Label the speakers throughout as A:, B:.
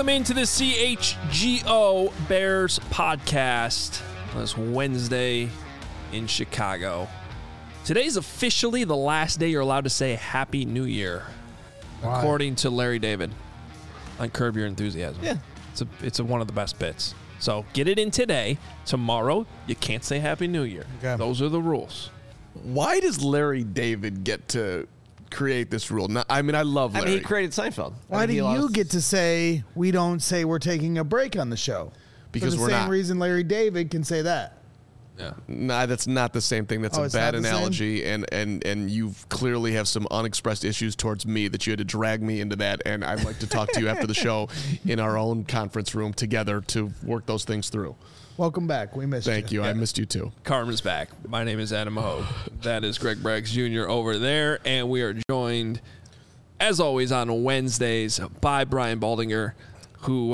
A: Welcome into the CHGO Bears podcast on this Wednesday in Chicago. Today's officially the last day you're allowed to say Happy New Year, according to Larry David on Curb Your Enthusiasm.
B: Yeah.
A: It's one of the best bits. So get it in today. Tomorrow, you can't say Happy New Year. Okay. Those are the rules.
C: Why does Larry David get to create this rule? I love Larry.
B: I mean, he created Seinfeld.
D: Why do you get to say we don't say we're taking a break on the show?
C: Because
D: we're not. For the same reason Larry David can say that.
C: Yeah. Nah, that's not the same thing. That's a bad analogy, and you clearly have some unexpressed issues towards me that you had to drag me into that, and I'd like to talk to you after the show in our own conference room together to work those things through.
D: Welcome back. We missed you.
C: Thank you. Yeah. I missed you too.
A: Carmen's back. My name is Adam Hogue. That is Greg Braggs Jr. over there, and we are joined, as always, on Wednesdays by Brian Baldinger, who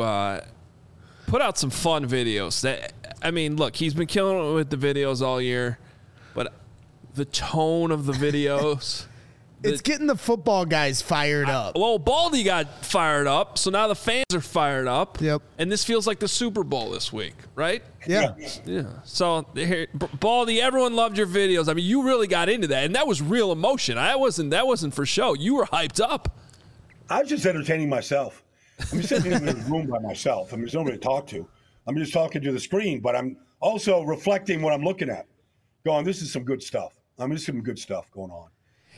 A: put out some fun videos. Look, he's been killing it with the videos all year, but the tone of the videos...
D: It's getting the football guys fired up.
A: Well, Baldy got fired up, so now the fans are fired up.
D: Yep.
A: And this feels like the Super Bowl this week, right?
D: Yeah.
A: So, Baldy, everyone loved your videos. I mean, you really got into that, and that was real emotion. That wasn't for show. You were hyped up.
E: I was just entertaining myself. I'm just sitting in the room by myself. I mean, there's nobody to talk to. I'm just talking to the screen, but I'm also reflecting what I'm looking at, going, this is some good stuff. There's some good stuff going on.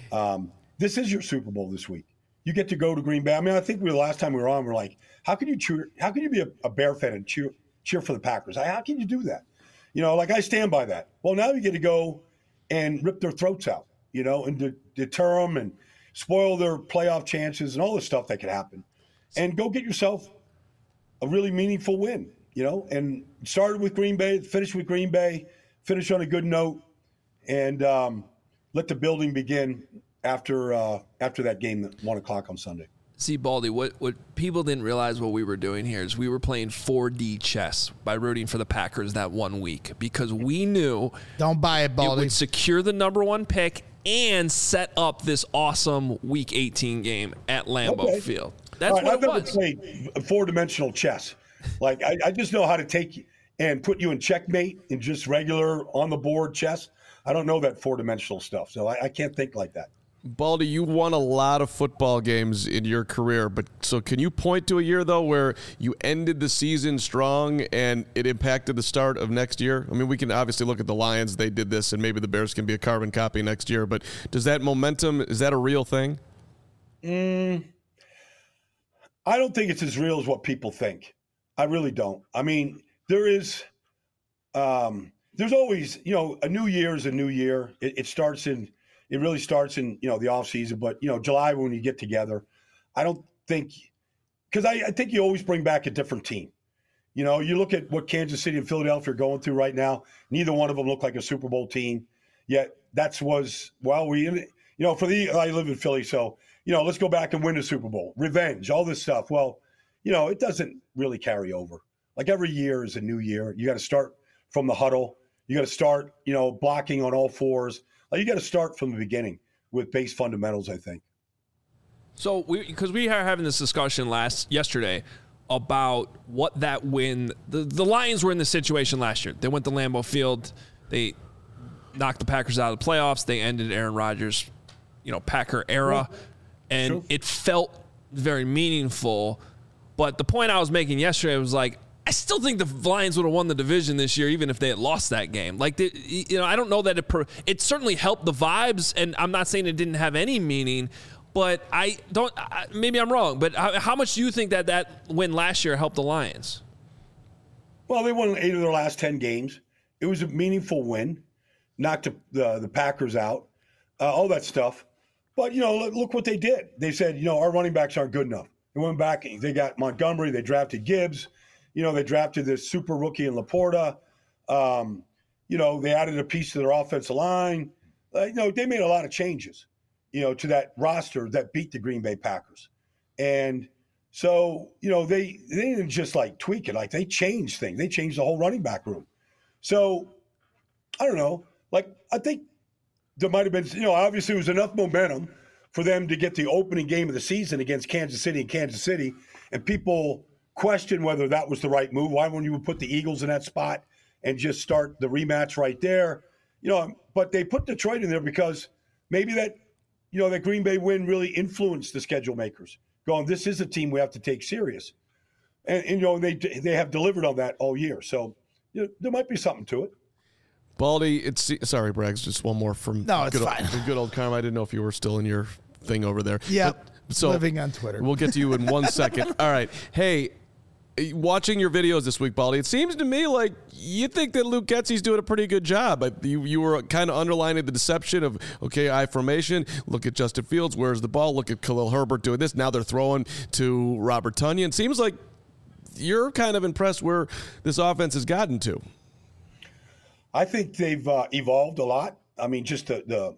E: This is your Super Bowl this week. You get to go to Green Bay. I mean, I think the last time we were on, we're like, how can you be a Bear fan and cheer for the Packers? How can you do that? I stand by that. Well, now you get to go and rip their throats out, and deter them and spoil their playoff chances and all the stuff that could happen. And go get yourself a really meaningful win, and started with Green Bay, finished with Green Bay, finish on a good note, and let the building begin after that game at 1 o'clock on Sunday.
A: See, Baldy, what people didn't realize what we were doing here is we were playing 4D chess by rooting for the Packers that 1 week because we knew
D: don't buy it, Baldy.
A: It would secure the number 1 pick and set up this awesome Week 18 game at Lambeau Field. That's what
E: I've
A: it was.
E: I've never played 4-dimensional chess. I just know how to take and put you in checkmate in just regular on-the-board chess. I don't know that 4-dimensional stuff, so I can't think like that.
C: Baldy, you won a lot of football games in your career, but so can you point to a year, though, where you ended the season strong and it impacted the start of next year? I mean, we can obviously look at the Lions. They did this, and maybe the Bears can be a carbon copy next year, but does that momentum, is that a real thing?
E: I don't think it's as real as what people think. I really don't. I mean, there's always, a new year is a new year. It really starts in, the off season, but July when you get together, I don't think, because I think you always bring back a different team. You look at what Kansas City and Philadelphia are going through right now. Neither one of them look like a Super Bowl team. Yet I live in Philly, so let's go back and win the Super Bowl, revenge, all this stuff. Well, it doesn't really carry over. Like every year is a new year. You got to start from the huddle. You got to start, blocking on all fours. You got to start from the beginning with base fundamentals, I think.
A: So, because we are having this discussion yesterday about what that win. The Lions were in this situation last year. They went to Lambeau Field. They knocked the Packers out of the playoffs. They ended Aaron Rodgers, Packer era, and it felt very meaningful. But the point I was making yesterday was I still think the Lions would have won the division this year, even if they had lost that game. I don't know that it certainly helped the vibes, and I'm not saying it didn't have any meaning, but maybe I'm wrong, but how much do you think that win last year helped the Lions?
E: Well, they won 8 of their last 10 games. It was a meaningful win, knocked the Packers out, all that stuff. But, look what they did. They said, our running backs aren't good enough. They went back, they got Montgomery, they drafted Gibbs. They drafted this super rookie in Laporta. They added a piece to their offensive line. They made a lot of changes, to that roster that beat the Green Bay Packers. And so, they didn't just tweak it. They changed things. They changed the whole running back room. So, I don't know. I think there might have been, obviously it was enough momentum for them to get the opening game of the season against Kansas City and people question whether that was the right move. Why wouldn't you put the Eagles in that spot and just start the rematch right there? But they put Detroit in there because maybe that Green Bay win really influenced the schedule makers, going, this is a team we have to take serious. And they have delivered on that all year. So there might be something to it.
C: Baldy, sorry, Braggs, just one more from
D: fine.
C: Good old Karma. I didn't know if you were still in your thing over there.
D: Yep.
C: So
D: living on Twitter.
C: We'll get to you in 1 second. All right. Hey, watching your videos this week, Baldy, it seems to me like you think that Luke Getsy's doing a pretty good job. You were kind of underlining the deception of, okay, I formation, look at Justin Fields, where's the ball? Look at Khalil Herbert doing this. Now they're throwing to Robert Tonyan. Seems like you're kind of impressed where this offense has gotten to.
E: I think they've evolved a lot. I mean, just the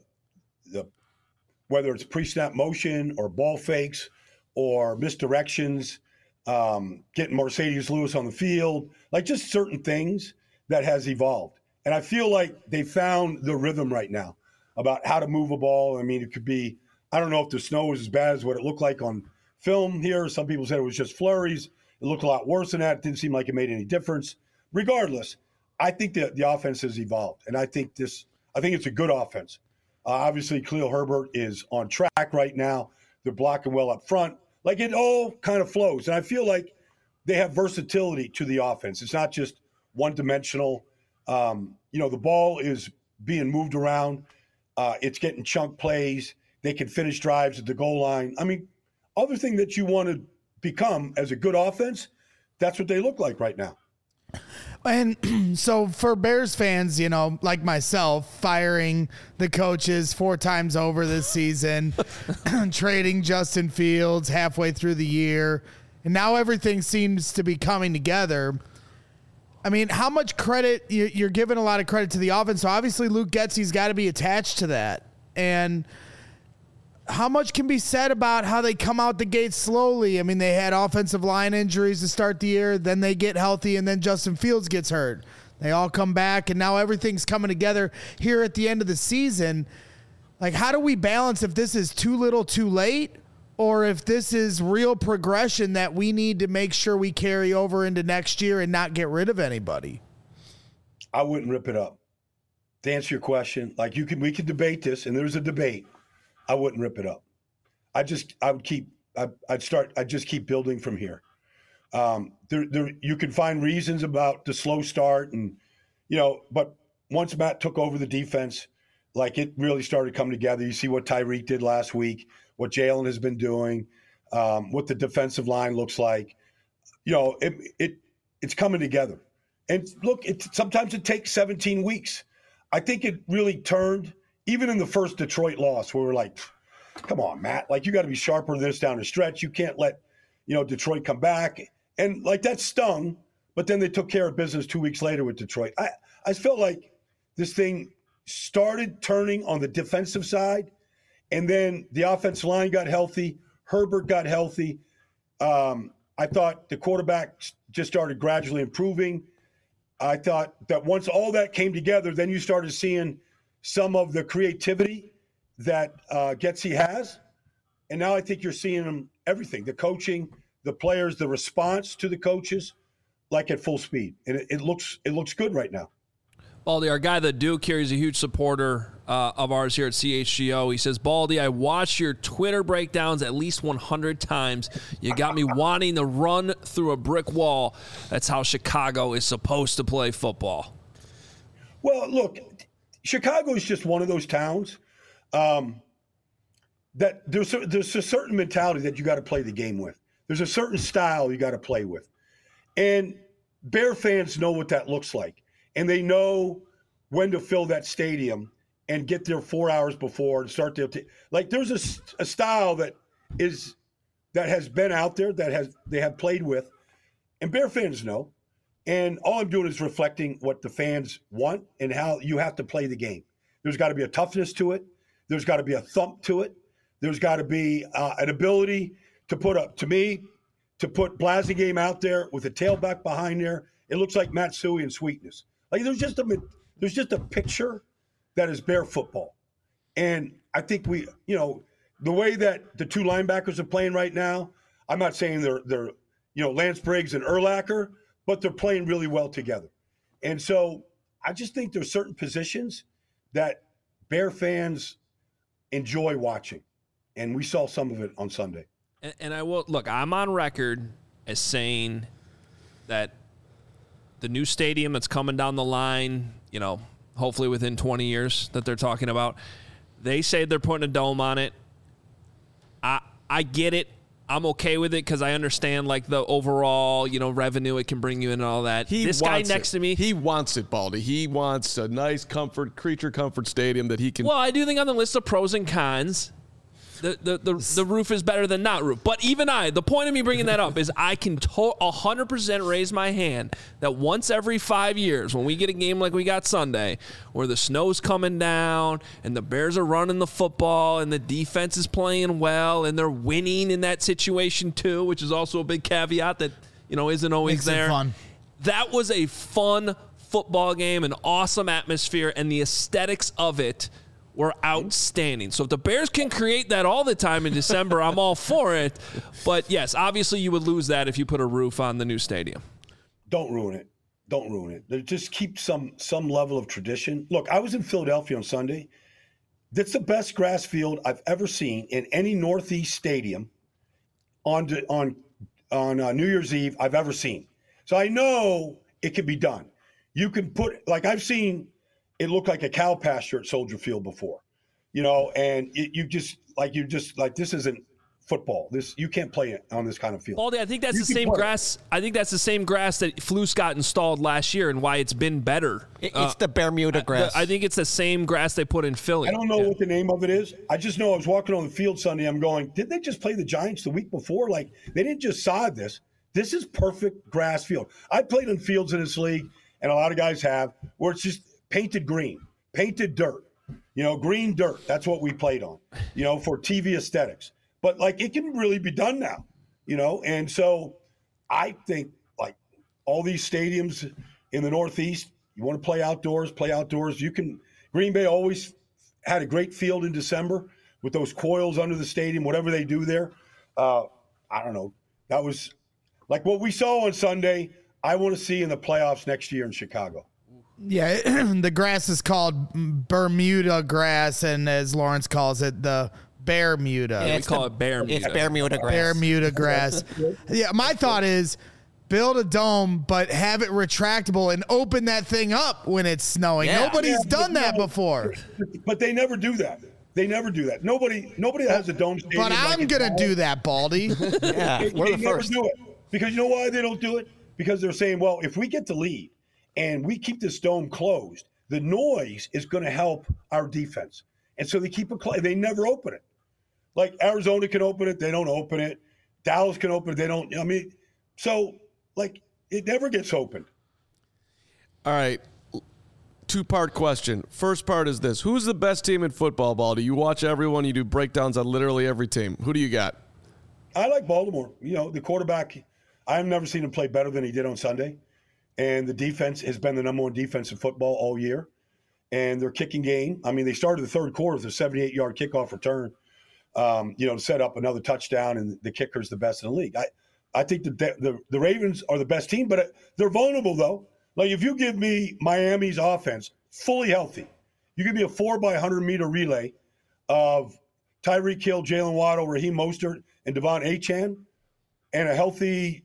E: whether it's pre-snap motion or ball fakes or misdirections, getting Mercedes Lewis on the field, like just certain things that has evolved. And I feel like they found the rhythm right now about how to move a ball. I mean, it could be, I don't know if the snow was as bad as what it looked like on film here. Some people said it was just flurries. It looked a lot worse than that. It didn't seem like it made any difference. Regardless, I think the offense has evolved. And I think it's a good offense. Obviously, Khalil Herbert is on track right now. They're blocking well up front. Like, it all kind of flows. And I feel like they have versatility to the offense. It's not just one-dimensional. The ball is being moved around. It's getting chunk plays. They can finish drives at the goal line. I mean, other thing that you want to become as a good offense, that's what they look like right now.
D: And so for Bears fans, like myself, firing the coaches 4 times over this season, trading Justin Fields halfway through the year, and now everything seems to be coming together. I mean, how much credit you're giving a lot of credit to the offense. So obviously Luke Getsy's got to be attached to that. And how much can be said about how they come out the gate slowly? I mean, they had offensive line injuries to start the year, then they get healthy, and then Justin Fields gets hurt. They all come back, and now everything's coming together here at the end of the season. Like, how do we balance if this is too little too late, or if this is real progression that we need to make sure we carry over into next year and not get rid of anybody?
E: I wouldn't rip it up. To answer your question, like we could debate this, and there's a debate. I wouldn't rip it up. I'd just keep building from here. You can find reasons about the slow start but once Matt took over the defense, like, it really started coming together. You see what Tyreek did last week, what Jalen has been doing, what the defensive line looks like. It's coming together. And look, sometimes it takes 17 weeks. I think it really turned. Even in the first Detroit loss, where we're like, come on, Matt, like, you got to be sharper than this down the stretch. You can't let, Detroit come back. And like, that stung, but then they took care of business 2 weeks later with Detroit. I felt like this thing started turning on the defensive side, and then the offensive line got healthy. Herbert got healthy. I thought the quarterback just started gradually improving. I thought that once all that came together, then you started seeing some of the creativity that Getsy has. And now I think you're seeing everything, the coaching, the players, the response to the coaches, like, at full speed. And it looks good right now.
A: Baldy, our guy, the Duke here, is a huge supporter of ours here at CHGO. He says, Baldy, I watched your Twitter breakdowns at least 100 times. You got me wanting to run through a brick wall. That's how Chicago is supposed to play football.
E: Well, look, Chicago is just one of those towns that there's a certain mentality that you got to play the game with. There's a certain style you got to play with. And Bear fans know what that looks like. And they know when to fill that stadium and get there 4 hours before and start their like, there's a style that has been out there, they have played with. And Bear fans know. And all I'm doing is reflecting what the fans want and how you have to play the game. There's got to be a toughness to it. There's got to be a thump to it. There's got to be an ability to put Blasingame out there with a tailback behind there. It looks like Matsui and Sweetness. Like, there's just a picture that is Bear football. And I think the way that the two linebackers are playing right now, I'm not saying they're Lance Briggs and Urlacher, but they're playing really well together. And so I just think there's certain positions that Bear fans enjoy watching. And we saw some of it on Sunday.
A: And I will look, I'm on record as saying that the new stadium that's coming down the line, hopefully within 20 years that they're talking about, they say they're putting a dome on it. I get it. I'm okay with it because I understand the overall, revenue it can bring you in and all that. This guy next to me,
C: he wants it, Baldy. He wants a nice creature comfort stadium that he can.
A: Well, I do think on the list of pros and cons, the roof is better than not roof. But even the point of me bringing that up is I can 100% raise my hand that once every 5 years, when we get a game like we got Sunday, where the snow's coming down and the Bears are running the football and the defense is playing well and they're winning in that situation too, which is also a big caveat that isn't always
D: Makes
A: there.
D: it fun.
A: That was a fun football game, an awesome atmosphere, and the aesthetics of it were outstanding. So if the Bears can create that all the time in December, I'm all for it. But yes, obviously you would lose that if you put a roof on the new stadium.
E: Don't ruin it. Don't ruin it. Just keep some level of tradition. Look, I was in Philadelphia on Sunday. That's the best grass field I've ever seen in any Northeast stadium on New Year's Eve I've ever seen. So I know it can be done. You can put I've seen it look like a cow pasture at Soldier Field before, and this isn't football. You can't play it on this kind of field.
A: Baldy, I think that's the same grass. I think that's the same grass that Flus got installed last year and why it's been better.
B: It's the Bermuda grass.
A: I think it's the same grass they put in Philly.
E: I don't know what the name of it is. I just know I was walking on the field Sunday. I'm going, did they just play the Giants the week before? They didn't just sod this. This is perfect grass field. I played in fields in this league, and a lot of guys have, where it's just painted green, painted dirt, green dirt. That's what we played on, for TV aesthetics. But it can really be done now, And so I think all these stadiums in the Northeast, you want to play outdoors, play outdoors. You can. Green Bay always had a great field in December with those coils under the stadium, whatever they do there. I don't know. That was what we saw on Sunday. I want to see in the playoffs next year in Chicago.
D: Yeah, the grass is called Bermuda grass, and as Lawrence calls it, the Bermuda.
A: Yeah, we call it Bermuda.
B: It's Bermuda grass.
D: Bermuda grass. Yeah, my thought is build a dome, but have it retractable and open that thing up when it's snowing.
B: Yeah.
D: Nobody's done that before.
E: But they never do that. Nobody has a dome stadium.
D: But I'm going to do that, Baldy.
B: Yeah, we're the
E: never
B: first.
E: do it. Because you know why they don't do it? Because they're saying, well, if we get the lead and we keep this dome closed, the noise is going to help our defense. And so they keep it closed. They never open it. Arizona can open it. They don't open it. Dallas can open it. They don't. So it never gets opened.
C: All right. Two-part question. First part is this. Who's the best team in football, Baldy? You watch everyone. You do breakdowns on literally every team. Who do you got?
E: I like Baltimore. The quarterback, I've never seen him play better than he did on Sunday. And the defense has been the number one defense in football all year. And their kicking game, they started the third quarter with a 78-yard kickoff return, to set up another touchdown, and the kicker's the best in the league. I think the Ravens are the best team, but they're vulnerable, though. If you give me Miami's offense fully healthy, you give me a 4x100-meter relay of Tyreek Hill, Jalen Waddle, Raheem Mostert, and Devon Achane, and a healthy,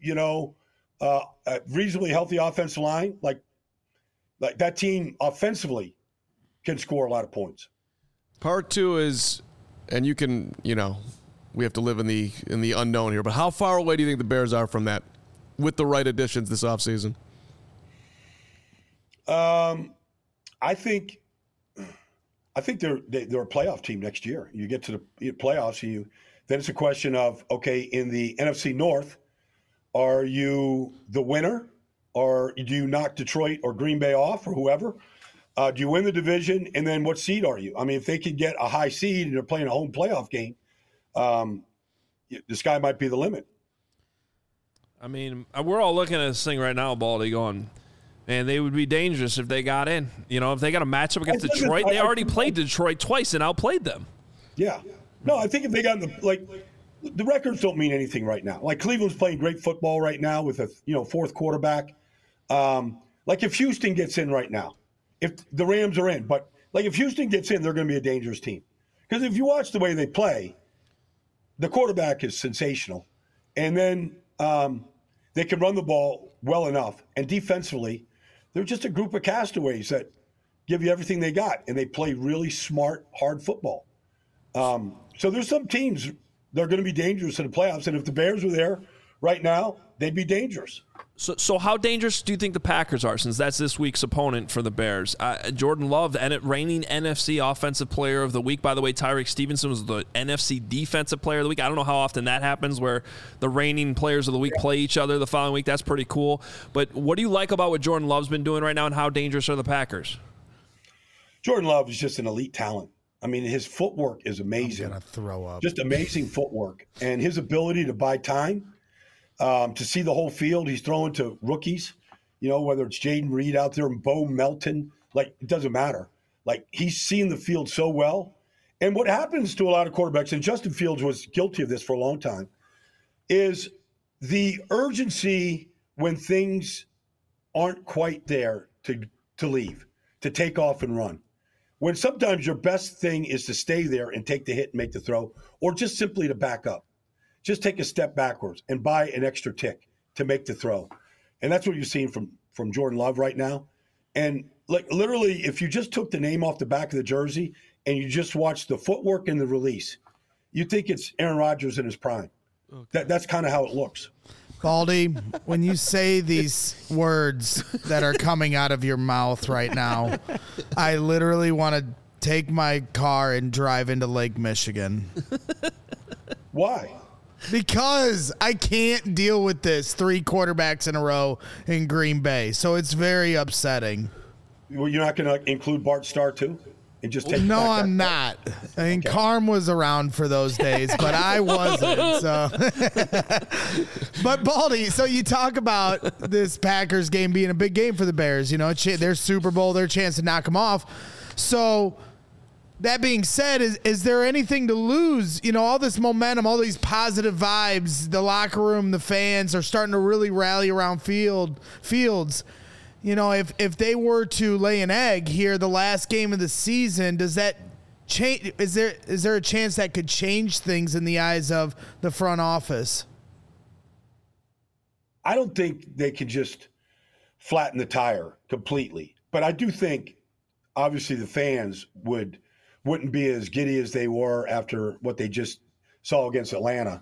E: a reasonably healthy offensive line, like that team offensively can score a lot of points.
C: Part two is, and you can, we have to live in the unknown here, but how far away do you think the Bears are from that with the right additions this offseason?
E: I think they're a playoff team next year. You get to the playoffs, then it's a question of, okay, in the NFC North, are you the winner, or do you knock Detroit or Green Bay off, or whoever? Do you win the division, and then what seed are you? If they could get a high seed and they're playing a home playoff game, the sky might be the limit.
A: We're all looking at this thing right now, Baldy, going, man, they would be dangerous if they got in. If they got a matchup against Detroit, they already played Detroit twice and outplayed them.
E: Yeah. No, I think if they got in the records don't mean anything right now. Like Cleveland's playing great football right now with a fourth quarterback. Like if Houston gets in right now, if the Rams are in, but like if Houston gets in, they're going to be a dangerous team. Because if you watch the way they play, the quarterback is sensational. And then they can run the ball well enough. And defensively, they're just a group of castaways that give you everything they got. And they play really smart, hard football. So there's some teams that are going to be dangerous in the playoffs. And if the Bears were there right now, they'd be dangerous.
A: So how dangerous do you think the Packers are, since that's this week's opponent for the Bears? Jordan Love, reigning NFC Offensive Player of the Week. By the way, Tyreek Stevenson was the NFC Defensive Player of the Week. I don't know how often that happens where the reigning Players of the Week play each other the following week. That's pretty cool. But what do you like about what Jordan Love's been doing right now, and how dangerous are the Packers?
E: Jordan Love is just an elite talent. I mean, his footwork is amazing.
D: I'm going to throw up.
E: Just amazing footwork. And his ability to buy time, to see the whole field. He's throwing to rookies, whether it's Jaden Reed out there and Bo Melton. Like, it doesn't matter. Like, he's seeing the field so well. And what happens to a lot of quarterbacks, and Justin Fields was guilty of this for a long time, is the urgency when things aren't quite there to leave, to take off and run. When sometimes your best thing is to stay there and take the hit and make the throw, or just simply to back up. Just take a step backwards and buy an extra tick to make the throw. And that's what you're seeing from Jordan Love right now. And like literally, if you just took the name off the back of the jersey and you just watch the footwork and the release, you think it's Aaron Rodgers in his prime. Okay. That's kind of how it looks.
D: Baldy, when you say these words that are coming out of your mouth right now, I literally want to take my car and drive into Lake Michigan.
E: Why?
D: Because I can't deal with this 3 quarterbacks in a row in Green Bay. So it's very upsetting.
E: Well, you're not going to include Bart Starr too? And just take
D: no, I'm not. I mean, okay. Carm was around for those days, but I wasn't. So, but Baldy, so you talk about this Packers game being a big game for the Bears. Their Super Bowl, their chance to knock them off. So that being said, is there anything to lose? All this momentum, all these positive vibes, the locker room, the fans are starting to really rally around Fields. If they were to lay an egg here, the last game of the season, does that change? Is there a chance that could change things in the eyes of the front office?
E: I don't think they can just flatten the tire completely, but I do think obviously the fans wouldn't be as giddy as they were after what they just saw against Atlanta.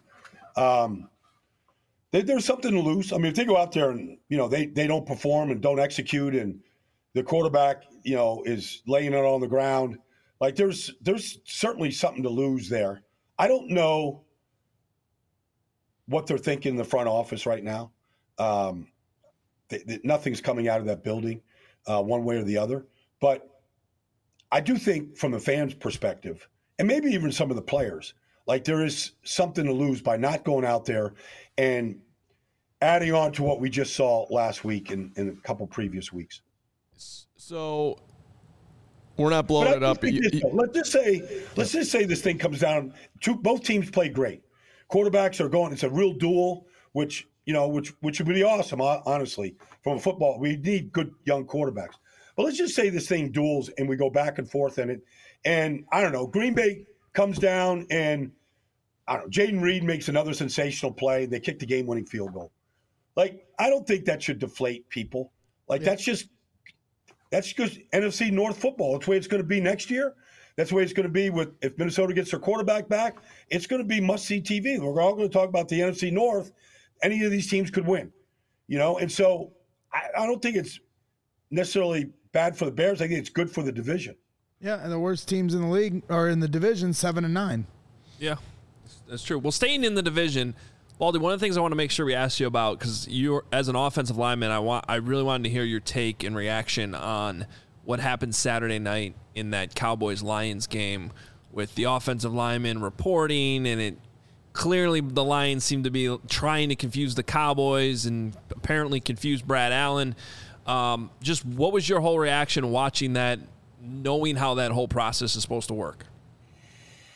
E: There's something to lose. I mean, if they go out there and, they don't perform and don't execute and the quarterback, is laying it on the ground, like there's certainly something to lose there. I don't know what they're thinking in the front office right now. Nothing's coming out of that building one way or the other. But I do think from the fans' perspective, and maybe even some of the players, like there is something to lose by not going out there and adding on to what we just saw last week and a couple previous weeks.
C: So we're not blowing it up.
E: Let's just say this thing comes down to both teams play great. Quarterbacks are going. It's a real duel, which would be awesome. Honestly, from a football, we need good young quarterbacks. But let's just say this thing duels and we go back and forth in it. And I don't know, Green Bay comes down and Jaden Reed makes another sensational play. They kick the game-winning field goal. Like, I don't think that should deflate people. Like, that's just NFC North football. That's the way it's going to be next year. That's the way it's going to be if Minnesota gets their quarterback back. It's going to be must-see TV. We're all going to talk about the NFC North. Any of these teams could win, And so I don't think it's necessarily bad for the Bears. I think it's good for the division.
D: Yeah, and the worst teams in the league are in the division, 7-9.
A: Yeah, that's true. Well, staying in the division, Baldy, one of the things I want to make sure we ask you about, because you're as an offensive lineman, I really wanted to hear your take and reaction on what happened Saturday night in that Cowboys-Lions game with the offensive lineman reporting, and it clearly the Lions seemed to be trying to confuse the Cowboys and apparently confused Brad Allen. Just what was your whole reaction watching that, knowing how that whole process is supposed to work?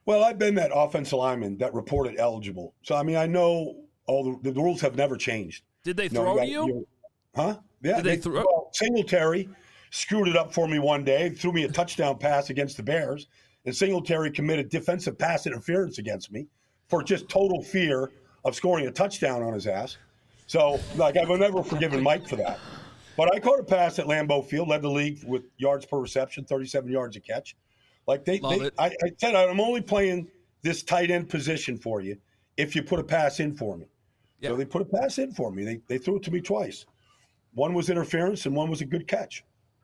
E: Well, I've been that offensive lineman that reported eligible. So, I mean, I know all the rules have never changed.
A: Did they throw to you?
E: Huh? Yeah.
A: Did they throw?
E: Well, Singletary screwed it up for me one day, threw me a touchdown pass against the Bears, and Singletary committed defensive pass interference against me for just total fear of scoring a touchdown on his ass. So, like, I've never forgiven Mike for that. But I caught a pass at Lambeau Field, led the league with yards per reception, 37 yards a catch. Like I said, I'm only playing this tight end position for you if you put a pass in for me. Yeah. So they put a pass in for me. They threw it to me twice. One was interference and one was a good catch.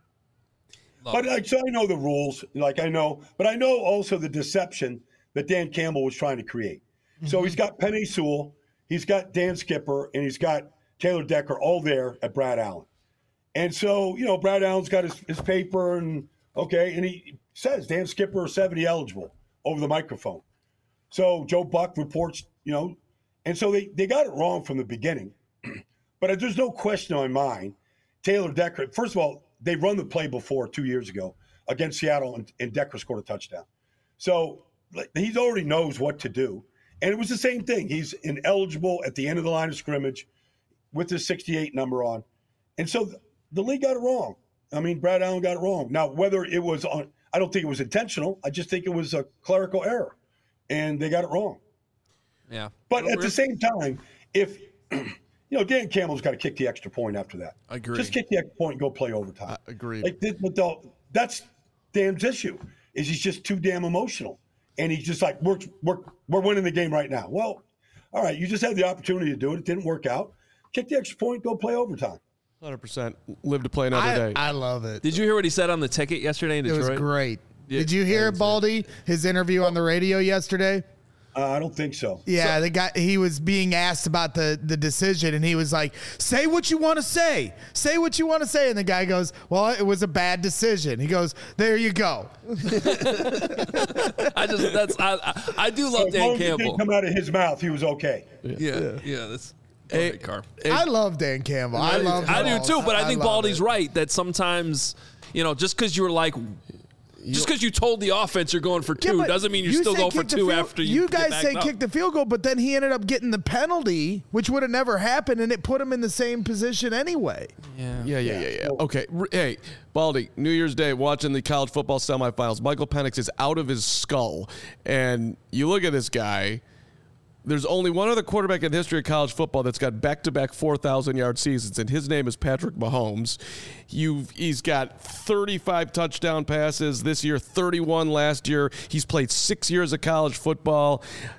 E: So I know the rules, but I know also the deception that Dan Campbell was trying to create. Mm-hmm. So he's got Penei Sewell, he's got Dan Skipper, and he's got Taylor Decker all there at Brad Allen. And so, Brad Allen's got his paper and he says Dan Skipper is 70 eligible over the microphone. So Joe Buck reports, and so they got it wrong from the beginning. But there's no question in my mind, Taylor Decker, first of all, they run the play before 2 years ago against Seattle, and Decker scored a touchdown. So he already knows what to do. And it was the same thing. He's ineligible at the end of the line of scrimmage with his 68 number on. And so the league got it wrong. I mean, Brad Allen got it wrong. Now, whether it was I don't think it was intentional. I just think it was a clerical error, and they got it wrong.
A: Yeah.
E: But at the same time, if Dan Campbell's got to kick the extra point after that.
C: Agreed.
E: Just kick the extra point and go play overtime.
C: Agreed.
E: That's Dan's issue. Is he's just too damn emotional, and he's just like we're winning the game right now. Well, all right, you just had the opportunity to do it. It didn't work out. Kick the extra point, go play overtime.
C: 100%. Live to play another day.
D: I love it.
A: Did you hear what he said on the ticket yesterday in Detroit?
D: It was great. Did you hear Baldy, his interview on the radio yesterday?
E: I don't think so.
D: Yeah, the guy, he was being asked about the decision, and he was like, say what you want to say. Say what you want to say. And the guy goes, well, it was a bad decision. He goes, there you go.
A: I do love Dan Campbell.
E: It didn't come out of his mouth. He was okay.
A: Yeah. That's great, Carr.
D: I love Dan Campbell. I
A: do too, but I think Baldy's right that sometimes, just because you're like, just because you told the offense you're going for two doesn't mean you still go for two after you
D: guys say kick the field goal, but then he ended up getting the penalty, which would have never happened, and it put him in the same position anyway.
C: Yeah. Okay. Hey, Baldy, New Year's Day, watching the college football semifinals. Michael Penix is out of his skull, and you look at this guy. There's only one other quarterback in the history of college football that's got back-to-back 4,000-yard seasons, and his name is Patrick Mahomes. He's got 35 touchdown passes this year, 31 last year. He's played 6 years of college football.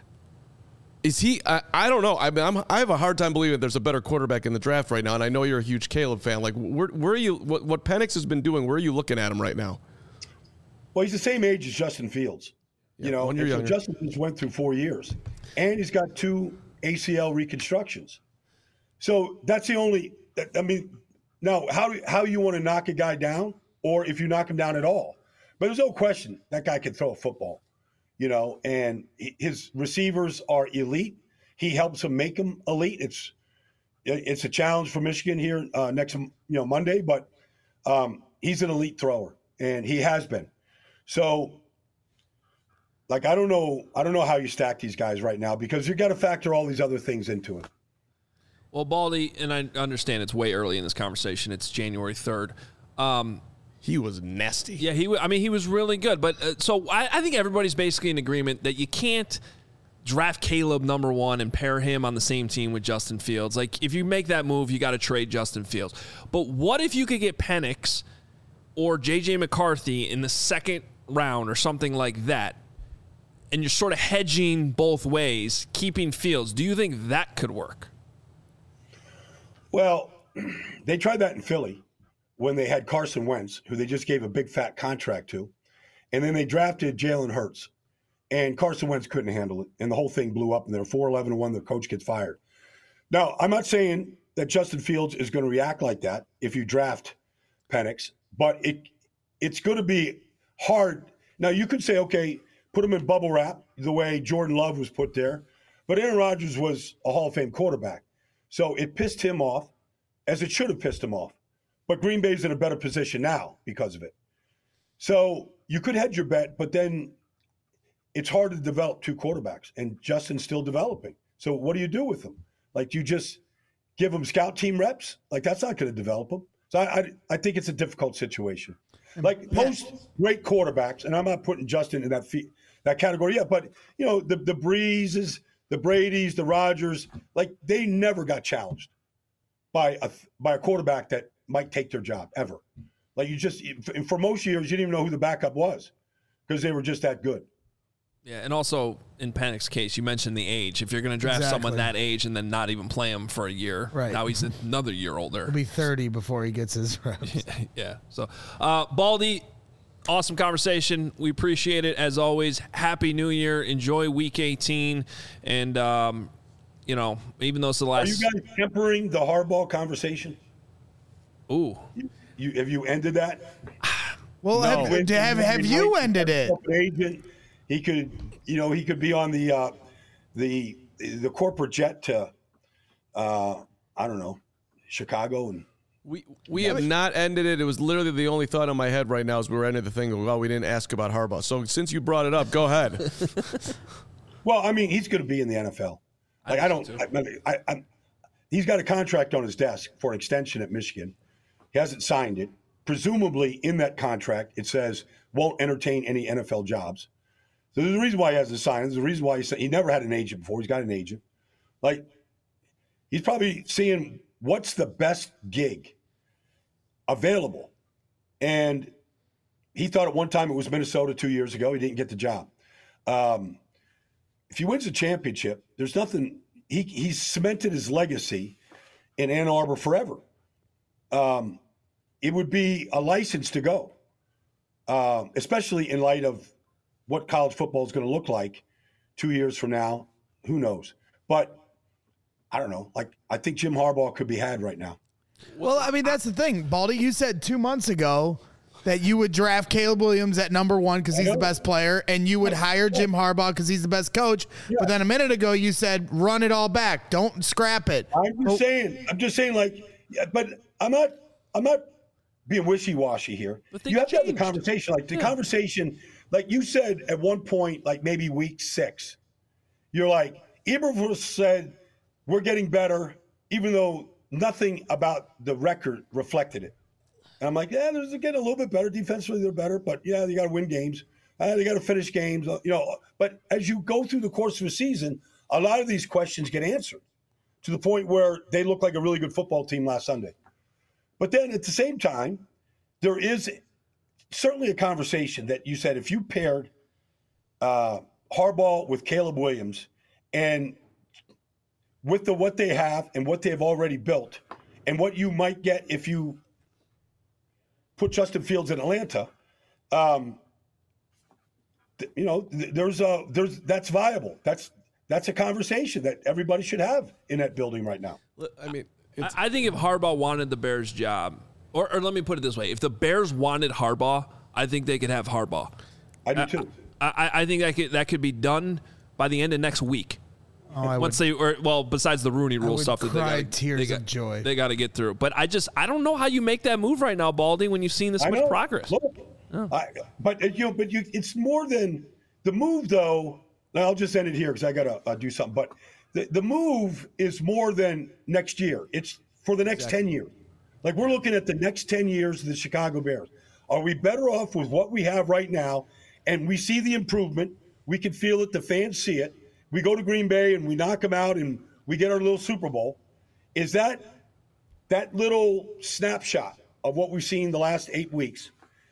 C: Is he? I don't know. I have a hard time believing there's a better quarterback in the draft right now, and I know you're a huge Caleb fan. Like, where are you? What Penix has been doing? Where are you looking at him right now?
E: Well, he's the same age as Justin Fields. So Justin Fields went through 4 years, and he's got 2 ACL reconstructions. So that's the only. I mean, now how you want to knock a guy down, or if you knock him down at all. But there's no question that guy can throw a football, and his receivers are elite. He helps them make them elite. It's a challenge for Michigan here next Monday, but he's an elite thrower, and he has been. So. Like, I don't know how you stack these guys right now because you got to factor all these other things into it.
A: Well, Baldy, and I understand it's way early in this conversation. It's January 3rd.
C: He was nasty.
A: Yeah, he was really good. But so I think everybody's basically in agreement that you can't draft Caleb number 1 and pair him on the same team with Justin Fields. Like, if you make that move, you got to trade Justin Fields. But what if you could get Penix or J.J. McCarthy in the second round or something like that? And you're sort of hedging both ways, keeping Fields. Do you think that could work?
E: Well, they tried that in Philly when they had Carson Wentz, who they just gave a big fat contract to. And then they drafted Jalen Hurts. And Carson Wentz couldn't handle it. And the whole thing blew up, and they're 4-11-1. The coach gets fired. Now, I'm not saying that Justin Fields is going to react like that if you draft Penix, but it's going to be hard. Now, you could say, okay, put him in bubble wrap the way Jordan Love was put there. But Aaron Rodgers was a Hall of Fame quarterback. So it pissed him off, as it should have pissed him off. But Green Bay's in a better position now because of it. So you could hedge your bet, but then it's hard to develop two quarterbacks, and Justin's still developing. So what do you do with them? Like, you just give them scout team reps? Like, that's not going to develop them. So I think it's a difficult situation. Like, most great quarterbacks, and I'm not putting Justin in that category yet, but, the Breezes, the Bradys, the Rodgers, like, they never got challenged by a quarterback that might take their job, ever. Like, for most years, you didn't even know who the backup was because they were just that good.
A: Yeah, and also in Panic's case, you mentioned the age. If you're going to draft someone that age and then not even play him for a year, now he's another year older.
D: He'll be 30 before he gets his reps.
A: Yeah. So, Baldy, awesome conversation. We appreciate it as always. Happy New Year. Enjoy Week 18. And, even though it's the last.
E: Are you guys tempering the Harbaugh conversation?
A: Ooh.
E: Have you ended that?
D: Well,
E: No.
D: have you ended it?
E: Agent, he could be on the corporate jet to I don't know, Chicago, and
C: we have not ended it. It was literally the only thought in my head right now as we were ending the thing. Well, we didn't ask about Harbaugh. So since you brought it up, go ahead.
E: Well, I mean, he's going to be in the NFL. Like, he's got a contract on his desk for an extension at Michigan. He hasn't signed it. Presumably in that contract, it says won't entertain any NFL jobs. So there's a reason why he hasn't signed. There's a reason why he never had an agent before. He's got an agent. Like, he's probably seeing what's the best gig available. And he thought at one time it was Minnesota 2 years ago. He didn't get the job. If he wins a championship, there's nothing. He's cemented his legacy in Ann Arbor forever. It would be a license to go, especially in light of what college football is going to look like 2 years from now. Who knows? But I don't know. Like, I think Jim Harbaugh could be had right now.
D: Well, I mean, that's the thing, Baldy. You said 2 months ago that you would draft Caleb Williams at number 1 because he's the best player, and you would hire Jim Harbaugh because he's the best coach. Yeah. But then a minute ago, you said run it all back, don't scrap it.
E: I'm just saying, like, but I'm not being wishy-washy here. You have to have the conversation. Like, the conversation, like you said at one point, like maybe week 6, you're like, Eberflus said we're getting better, even though nothing about the record reflected it. And I'm like, yeah, they're getting a little bit better. Defensively, they're better, but yeah, they got to win games. They got to finish games, But as you go through the course of a season, a lot of these questions get answered to the point where they look like a really good football team last Sunday. But then at the same time, there is certainly a conversation that you said if you paired Harbaugh with Caleb Williams and with what they have and what they have already built and what you might get if you put Justin Fields in Atlanta, that's viable. That's a conversation that everybody should have in that building right now.
C: I mean,
A: I think if Harbaugh wanted the Bears job, or let me put it this way, if the Bears wanted Harbaugh, I think they could have Harbaugh.
E: I do too.
A: I think that could be done by the end of next week. Besides the Rooney Rule stuff that they got to get through. But I don't know how you make that move right now, Baldy, when you've seen this much progress.
E: But it's more than the move, though. I'll just end it here because I got to do something. But the move is more than next year. It's for the next 10 years. Like, we're looking at the next 10 years of the Chicago Bears. Are we better off with what we have right now? And we see the improvement. We can feel it. The fans see it. We go to Green Bay and we knock them out and we get our little Super Bowl. Is that little snapshot of what we've seen the last 8 weeks?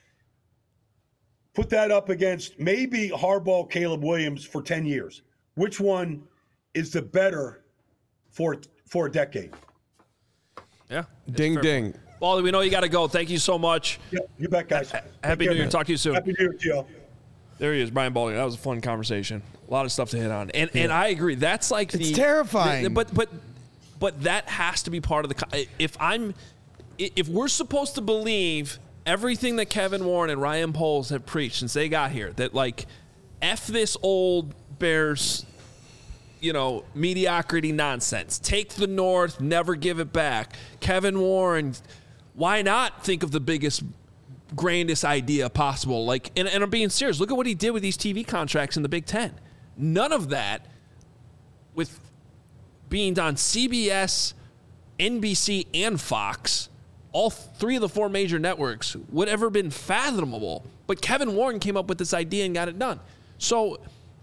E: Put that up against maybe Harbaugh, Caleb Williams for 10 years. Which one is the better for a decade?
A: Yeah.
C: Ding, ding.
A: Baldy, we know you got to go. Thank you so much.
E: Yeah, you bet, guys.
A: Happy New Year. Talk to you soon.
E: Happy New Year to you all.
A: There he is, Brian Baldy. That was a fun conversation. A lot of stuff to hit on. And I agree. That's like
D: it's terrifying.
A: But that has to be part of the if we're supposed to believe everything that Kevin Warren and Ryan Poles have preached since they got here, that like F this old Bears, mediocrity nonsense. Take the North, never give it back. Kevin Warren, why not think of the biggest grandest idea possible. Like, and I'm being serious. Look at what he did with these TV contracts in the Big Ten. None of that, with being on CBS, NBC, and Fox, all three of the four major networks, would ever been fathomable. But Kevin Warren came up with this idea and got it done. So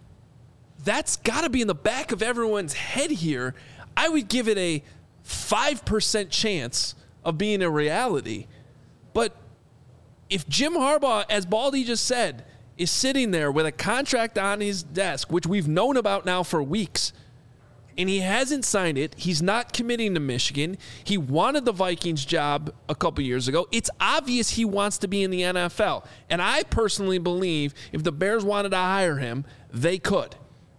A: that's got to be in the back of everyone's head here. I would give it a 5% chance of being a reality. But if Jim Harbaugh, as Baldy just said, is sitting there with a contract on his desk, which we've known about now for weeks, and he hasn't signed it, he's not committing to Michigan. He wanted the Vikings job a couple years ago. It's obvious he wants to be in the NFL. And I personally believe if the Bears wanted to hire him, they could.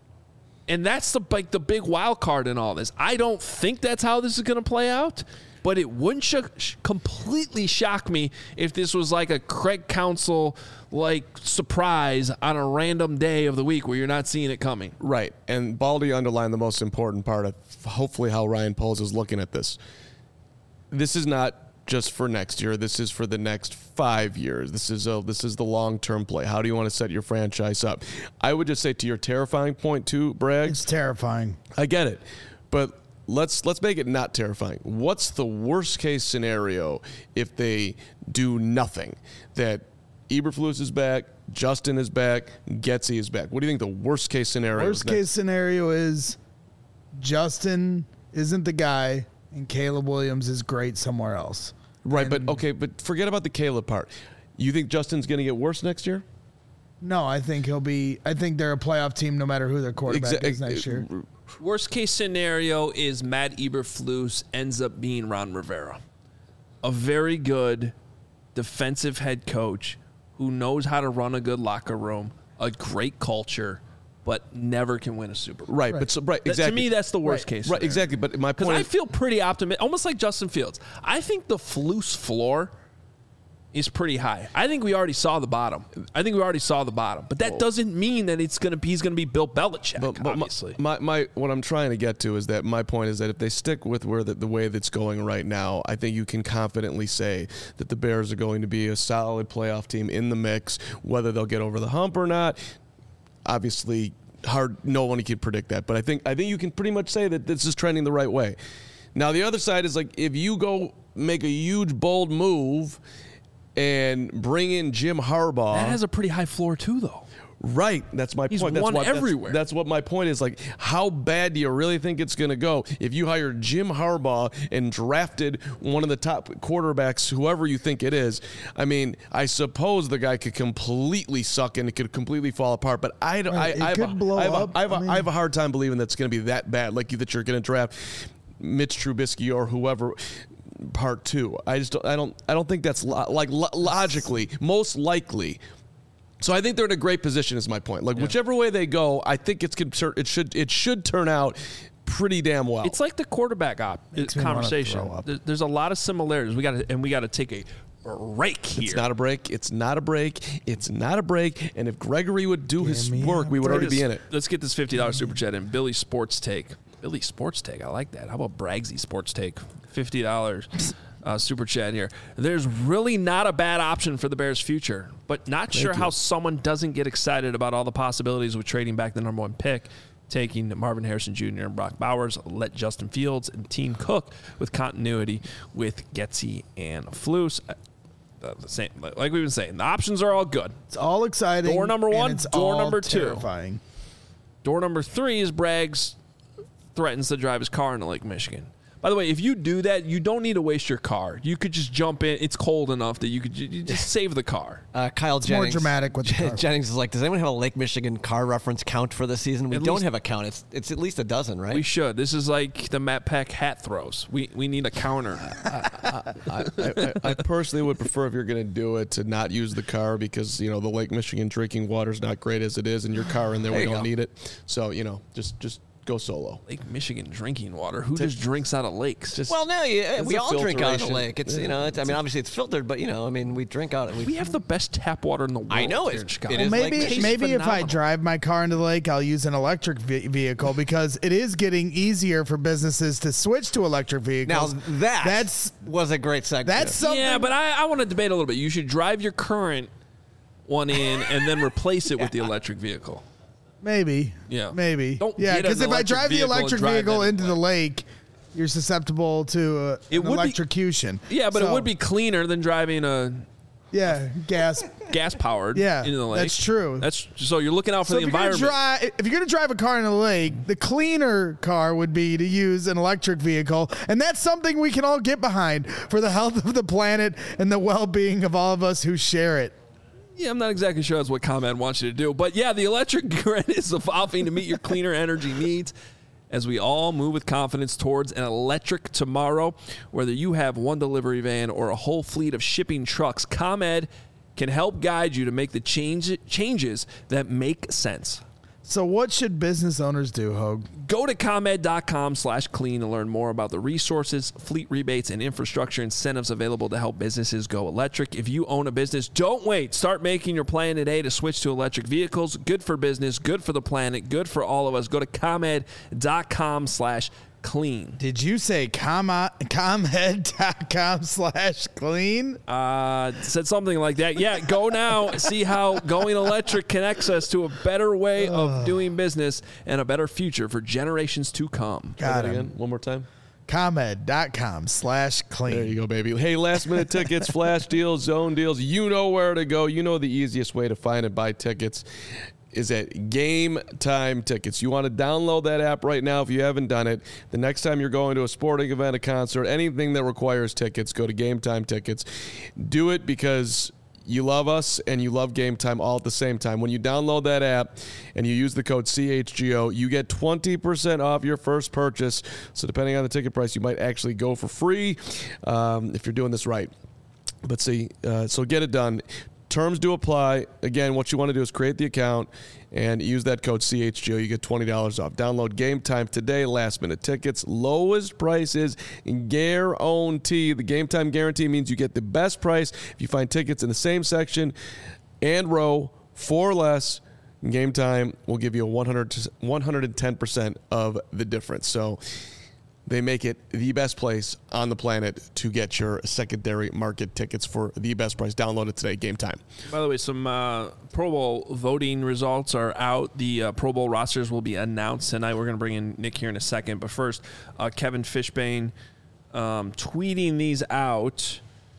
A: And that's the big wild card in all this. I don't think that's how this is going to play out. But it wouldn't completely shock me if this was like a Craig Counsell surprise on a random day of the week where you're not seeing it coming.
C: Right. And Baldy underlined the most important part of hopefully how Ryan Poles is looking at this. This is not just for next year. This is for the next 5 years. This is the long-term play. How do you want to set your franchise up? I would just say to your terrifying point too, Bragg.
D: It's terrifying.
C: I get it. But let's make it not terrifying. What's the worst case scenario if they do nothing? That Eberflus is back, Justin is back, Getsy is back. What do you think the worst case scenario is?
D: Worst case scenario is Justin isn't the guy and Caleb Williams is great somewhere else.
C: Right, but forget about the Caleb part. You think Justin's going to get worse next year?
D: No, I think they're a playoff team no matter who their quarterback is next year.
A: Worst case scenario is Matt Eberflus ends up being Ron Rivera, a very good defensive head coach who knows how to run a good locker room, a great culture, but never can win a Super Bowl.
C: Right. Exactly.
A: To me, that's the worst case scenario.
C: Right, exactly. But my point
A: is, I feel pretty optimistic, almost like Justin Fields. I think the Flus floor is pretty high. I think we already saw the bottom. But that doesn't mean that he's going to be Bill Belichick, obviously.
C: My what I'm trying to get to is that my point is that if they stick with the way that's going right now, I think you can confidently say that the Bears are going to be a solid playoff team in the mix. Whether they'll get over the hump or not, obviously hard. No one can predict that. But I think you can pretty much say that this is trending the right way. Now the other side is if you go make a huge bold move and bring in Jim Harbaugh.
A: That has a pretty high floor too, though.
C: Right. That's my point.
A: He's won everywhere.
C: That's what my point is. How bad do you really think it's going to go if you hire Jim Harbaugh and drafted one of the top quarterbacks, whoever you think it is? I mean, I suppose the guy could completely suck and it could completely fall apart, but I have a hard time believing that's going to be that bad, that you're going to draft Mitch Trubisky or whoever. Part two. I don't think that's logically most likely. So I think they're in a great position. Is my point. Whichever way they go, I think it should turn out pretty damn well.
A: It's like the quarterback conversation. There's a lot of similarities. We got to take a break here.
C: It's not a break. It's not a break. It's not a break. And if Gregory would do his work, we would already be in it.
A: Let's get this $50 super chat in. Billy Sports Take. Billy Sports Take. I like that. How about Braggsy Sports Take? $50 super chat here. There's really not a bad option for the Bears' future, but not sure how someone doesn't get excited about all the possibilities with trading back the number one pick, taking Marvin Harrison Jr. and Brock Bowers, let Justin Fields and team cook with continuity with Getsy and Flus. The same, like we've been saying, the options are all good.
D: It's all exciting.
A: Door number one, door number two.
D: Terrifying.
A: Door number three is Braggs threatens to drive his car into Lake Michigan. By the way, if you do that, you don't need to waste your car. You could just jump in. It's cold enough that you just save the car.
B: Kyle
D: it's
B: Jennings.
D: More dramatic with the car.
B: Jennings is like, does anyone have a Lake Michigan car reference count for the season? We don't have a count. It's at least a dozen, right?
A: We should. This is like the Matt Peck hat throws. We need a counter.
C: I personally would prefer, if you're going to do it, to not use the car because, the Lake Michigan drinking water is not great as it is, and your car in there, we don't need it. So, just go solo.
A: Lake Michigan drinking water. Who just drinks out of lakes?
B: Well, no, we all drink out of the
C: filtration.
B: lake. It's obviously it's filtered, but we drink out.
A: We have the best tap water in the world.
B: I know
A: here in Chicago.
B: it is.
D: Maybe
B: like
D: maybe if I drive my car into the lake, I'll use an electric vehicle because it is getting easier for businesses to switch to electric vehicles.
B: Now that was a great segue.
D: That's something.
A: Yeah, but I want to debate a little bit. You should drive your current one in and then replace it with the electric vehicle.
D: Maybe.
A: Yeah.
D: Maybe.
A: Don't
D: yeah,
A: get
D: because
A: an
D: if I drive the
A: vehicle and
D: electric
A: drive
D: vehicle
A: that
D: into the lake, you're susceptible to
A: It
D: an
A: would be-
D: electrocution.
A: Yeah, but it
D: So,
A: would be cleaner than driving a
D: gas.
A: gas powered
D: Yeah,
A: into the lake.
D: that's true.
A: That's so you're looking out for
D: So
A: the
D: if you're gonna
A: environment.
D: if you're going to drive a car in the lake, the cleaner car would be to use an electric vehicle, and that's something we can all get behind for the health of the planet and the well-being of all of us who share it.
A: Yeah, I'm not exactly sure that's what ComEd wants you to do. But yeah, the electric grid is evolving to meet your cleaner energy needs as we all move with confidence towards an electric tomorrow. Whether you have one delivery van or a whole fleet of shipping trucks, ComEd can help guide you to make the changes that make sense.
D: So what should business owners do, Hogue?
A: Go to ComEd.com/clean to learn more about the resources, fleet rebates, and infrastructure incentives available to help businesses go electric. If you own a business, don't wait. Start making your plan today to switch to electric vehicles. Good for business, good for the planet, good for all of us. Go to ComEd.com/clean.
D: Did you say ComEd.com/clean?
A: Said something like that. Yeah, go now. See how going electric connects us to a better way of doing business and a better future for generations to come.
D: Got
C: Say that
D: him.
C: again, one more time.
D: ComEd.com/clean.
C: There you go, baby. Hey, last minute tickets, flash deals, zone deals. You know where to go. You know the easiest way to find and buy tickets is at Game Time Tickets. You want to download that app right now if you haven't done it. The next time you're going to a sporting event, a concert, anything that requires tickets, go to Game Time Tickets. Do it because you love us and you love Game Time all at the same time. When you download that app and you use the code CHGO, you get 20% off your first purchase. So depending on the ticket price, you might actually go for free if you're doing this right. But see, so get it done. Terms do apply. Again, what you want to do is create the account and use that code CHGO. You get $20 off. Download Game Time today. Last minute tickets. Lowest prices guarantee. The Game Time guarantee means you get the best price if you find tickets in the same section and row for less. Game Time will give you a 110% of the difference. So they make it the best place on the planet to get your secondary market tickets for the best price. Download it today, Game Time.
A: By the way, some Pro Bowl voting results are out. The Pro Bowl rosters will be announced tonight. We're going to bring in Nick here in a second. But first, Kevin Fishbane tweeting these out.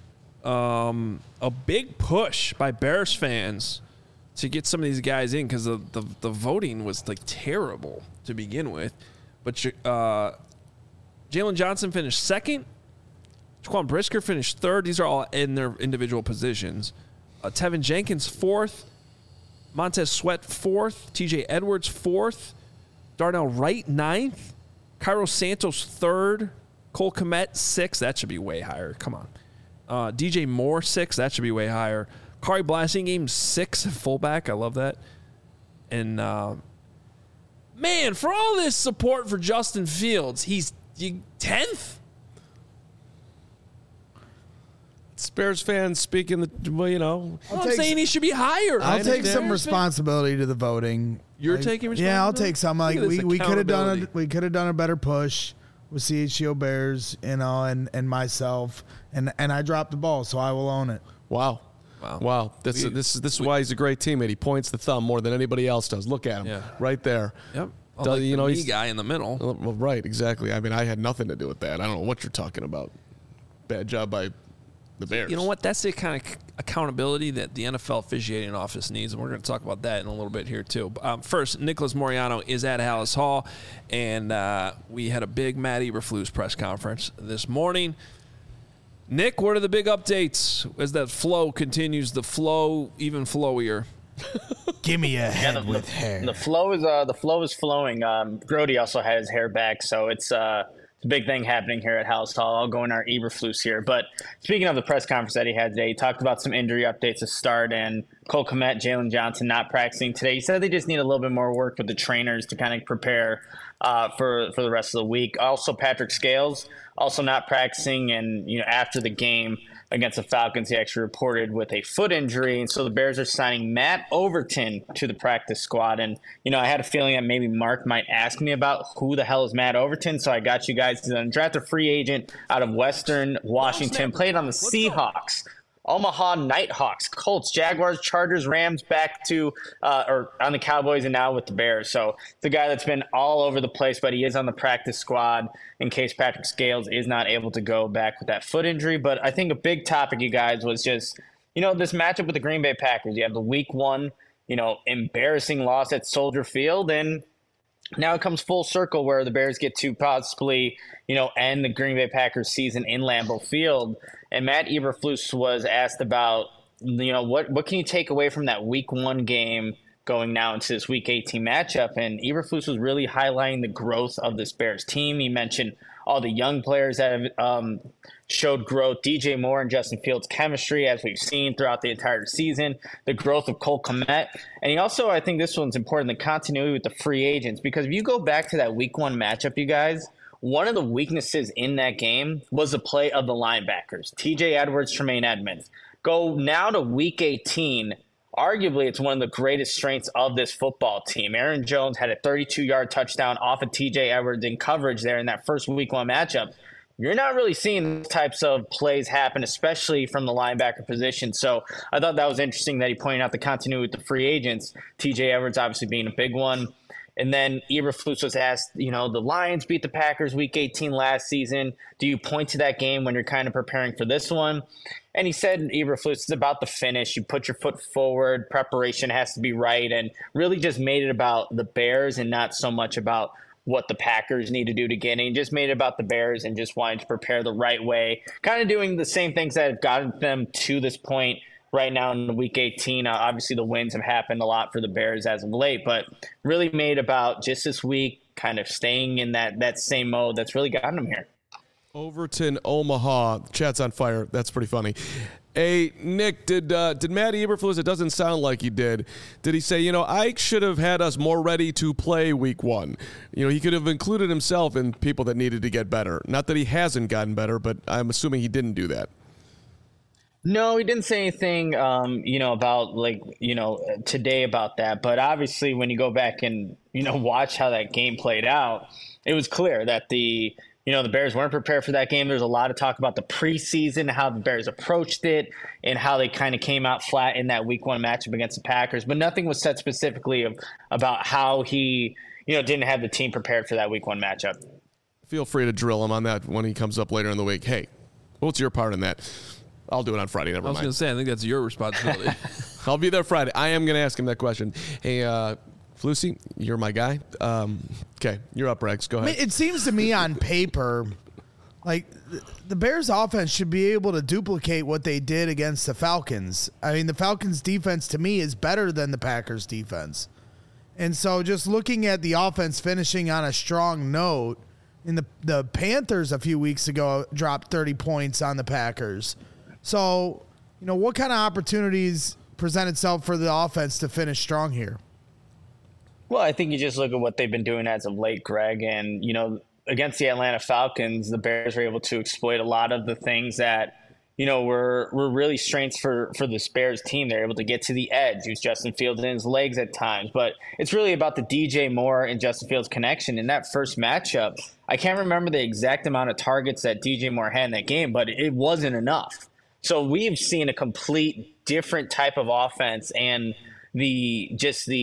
A: A big push by Bears fans to get some of these guys in because the voting was like terrible to begin with. But Jalen Johnson finished second. Jaquan Brisker finished third. These are all in their individual positions. Tevin Jenkins fourth. Montez Sweat fourth. TJ Edwards fourth. Darnell Wright ninth. Cairo Santos third. Cole Kmet sixth. That should be way higher. Come on. DJ Moore sixth. That should be way higher. Kari Blasingame sixth fullback. I love that. And man, for all this support for Justin Fields, he's 10th?
C: Bears fans speaking,
A: I'm saying he should be higher.
D: I'll take some responsibility to the voting.
A: You're taking responsibility?
D: Yeah, I'll take some. Like
A: Look at this
D: we could have done
A: accountability.
D: a better push with CHGO Bears, and myself, and I dropped the ball, so I will own it.
C: Wow. This is why he's a great teammate. He points the thumb more than anybody else does. Look at him, right there.
A: Yep.
C: Like
A: the me
C: he's
A: guy in the middle.
C: Well, right, exactly. I mean, I had nothing to do with that. I don't know what you're talking about. Bad job by the Bears.
A: You know what? That's the kind of accountability that the NFL officiating office needs, and we're going to talk about that in a little bit here too. First, Nicholas Moriano is at Hallis Hall, and we had a big Matt Eberflus press conference this morning. Nick, what are the big updates as that flow continues? The flow even flowier.
D: Give me a head with hair.
F: The flow is flowing. Grody also had his hair back, so it's the big thing happening here at House Hall. I'll go in our Eberflus here. But speaking of the press conference that he had today, he talked about some injury updates to start, and Cole Kmet, Jalen Johnson not practicing today. He said they just need a little bit more work with the trainers to kind of prepare for the rest of the week. Also, Patrick Scales also not practicing, and after the game against the Falcons, he actually reported with a foot injury. And so the Bears are signing Matt Overton to the practice squad. And, I had a feeling that maybe Mark might ask me about who the hell is Matt Overton. So I got you guys to draft a free agent out of Western Washington, played on the Seahawks, Omaha Nighthawks, Colts, Jaguars, Chargers, Rams, back to or on the Cowboys, and now with the Bears. So the guy that's been all over the place, but he is on the practice squad in case Patrick Scales is not able to go back with that foot injury. But I think a big topic, you guys, was just, this matchup with the Green Bay Packers. You have the week 1, embarrassing loss at Soldier Field, and now it comes full circle where the Bears get to possibly, end the Green Bay Packers season in Lambeau Field. And Matt Eberflus was asked about, what can you take away from that week 1 game going now into this week 18 matchup? And Eberflus was really highlighting the growth of this Bears team. He mentioned all the young players that have showed growth, DJ Moore and Justin Fields' chemistry, as we've seen throughout the entire season, the growth of Cole Kmet. And he also, I think this one's important, the continuity with the free agents, because if you go back to that week 1 matchup, you guys, one of the weaknesses in that game was the play of the linebackers, TJ Edwards, Tremaine Edmonds. Go now to week 18. Arguably, it's one of the greatest strengths of this football team. Aaron Jones had a 32-yard touchdown off of TJ Edwards in coverage there in that first week 1 matchup. You're not really seeing these types of plays happen, especially from the linebacker position. So I thought that was interesting that he pointed out the continuity with the free agents, TJ Edwards obviously being a big one. And then Eberflus was asked, the Lions beat the Packers week 18 last season. Do you point to that game when you're kind of preparing for this one? And he said, Eberflus, it's about the finish. You put your foot forward. Preparation has to be right, and really just made it about the Bears and not so much about what the Packers need to do to get in. He just made it about the Bears and just wanted to prepare the right way, kind of doing the same things that have gotten them to this point right now in week 18. Obviously, the wins have happened a lot for the Bears as of late, but really made about just this week kind of staying in that same mode that's really gotten them here.
C: Overton, Omaha. Chat's on fire. That's pretty funny. Hey, Nick, did Matt Eberflus, it doesn't sound like he did he say, Ike should have had us more ready to play week 1? He could have included himself in people that needed to get better. Not that he hasn't gotten better, but I'm assuming he didn't do that.
F: No, he didn't say anything, about today about that. But obviously, when you go back and, watch how that game played out, it was clear that the Bears weren't prepared for that game. There's a lot of talk about the preseason, how the Bears approached it, and how they kind of came out flat in that week 1 matchup against the Packers. But nothing was said specifically about how he, didn't have the team prepared for that week 1 matchup.
C: Feel free to drill him on that when he comes up later in the week. Hey, what's your part in that? I'll do it on Friday. Never mind.
A: I was going to say, I think that's your responsibility.
C: I'll be there Friday. I am going to ask him that question. Hey, Flusy, you're my guy. Okay, you're up, Rex. Go ahead.
D: It seems to me on paper, like the Bears offense should be able to duplicate what they did against the Falcons. I mean, the Falcons defense to me is better than the Packers defense. And so just looking at the offense finishing on a strong note, and the Panthers a few weeks ago dropped 30 points on the Packers. So, what kind of opportunities present itself for the offense to finish strong here?
F: Well, I think you just look at what they've been doing as of late, Greg, and, against the Atlanta Falcons, the Bears were able to exploit a lot of the things that, were really strengths for this Bears team. They're able to get to the edge, use Justin Fields in his legs at times, but it's really about the DJ Moore and Justin Fields connection. In that first matchup, I can't remember the exact amount of targets that DJ Moore had in that game, but it wasn't enough. So we've seen a complete different type of offense, and the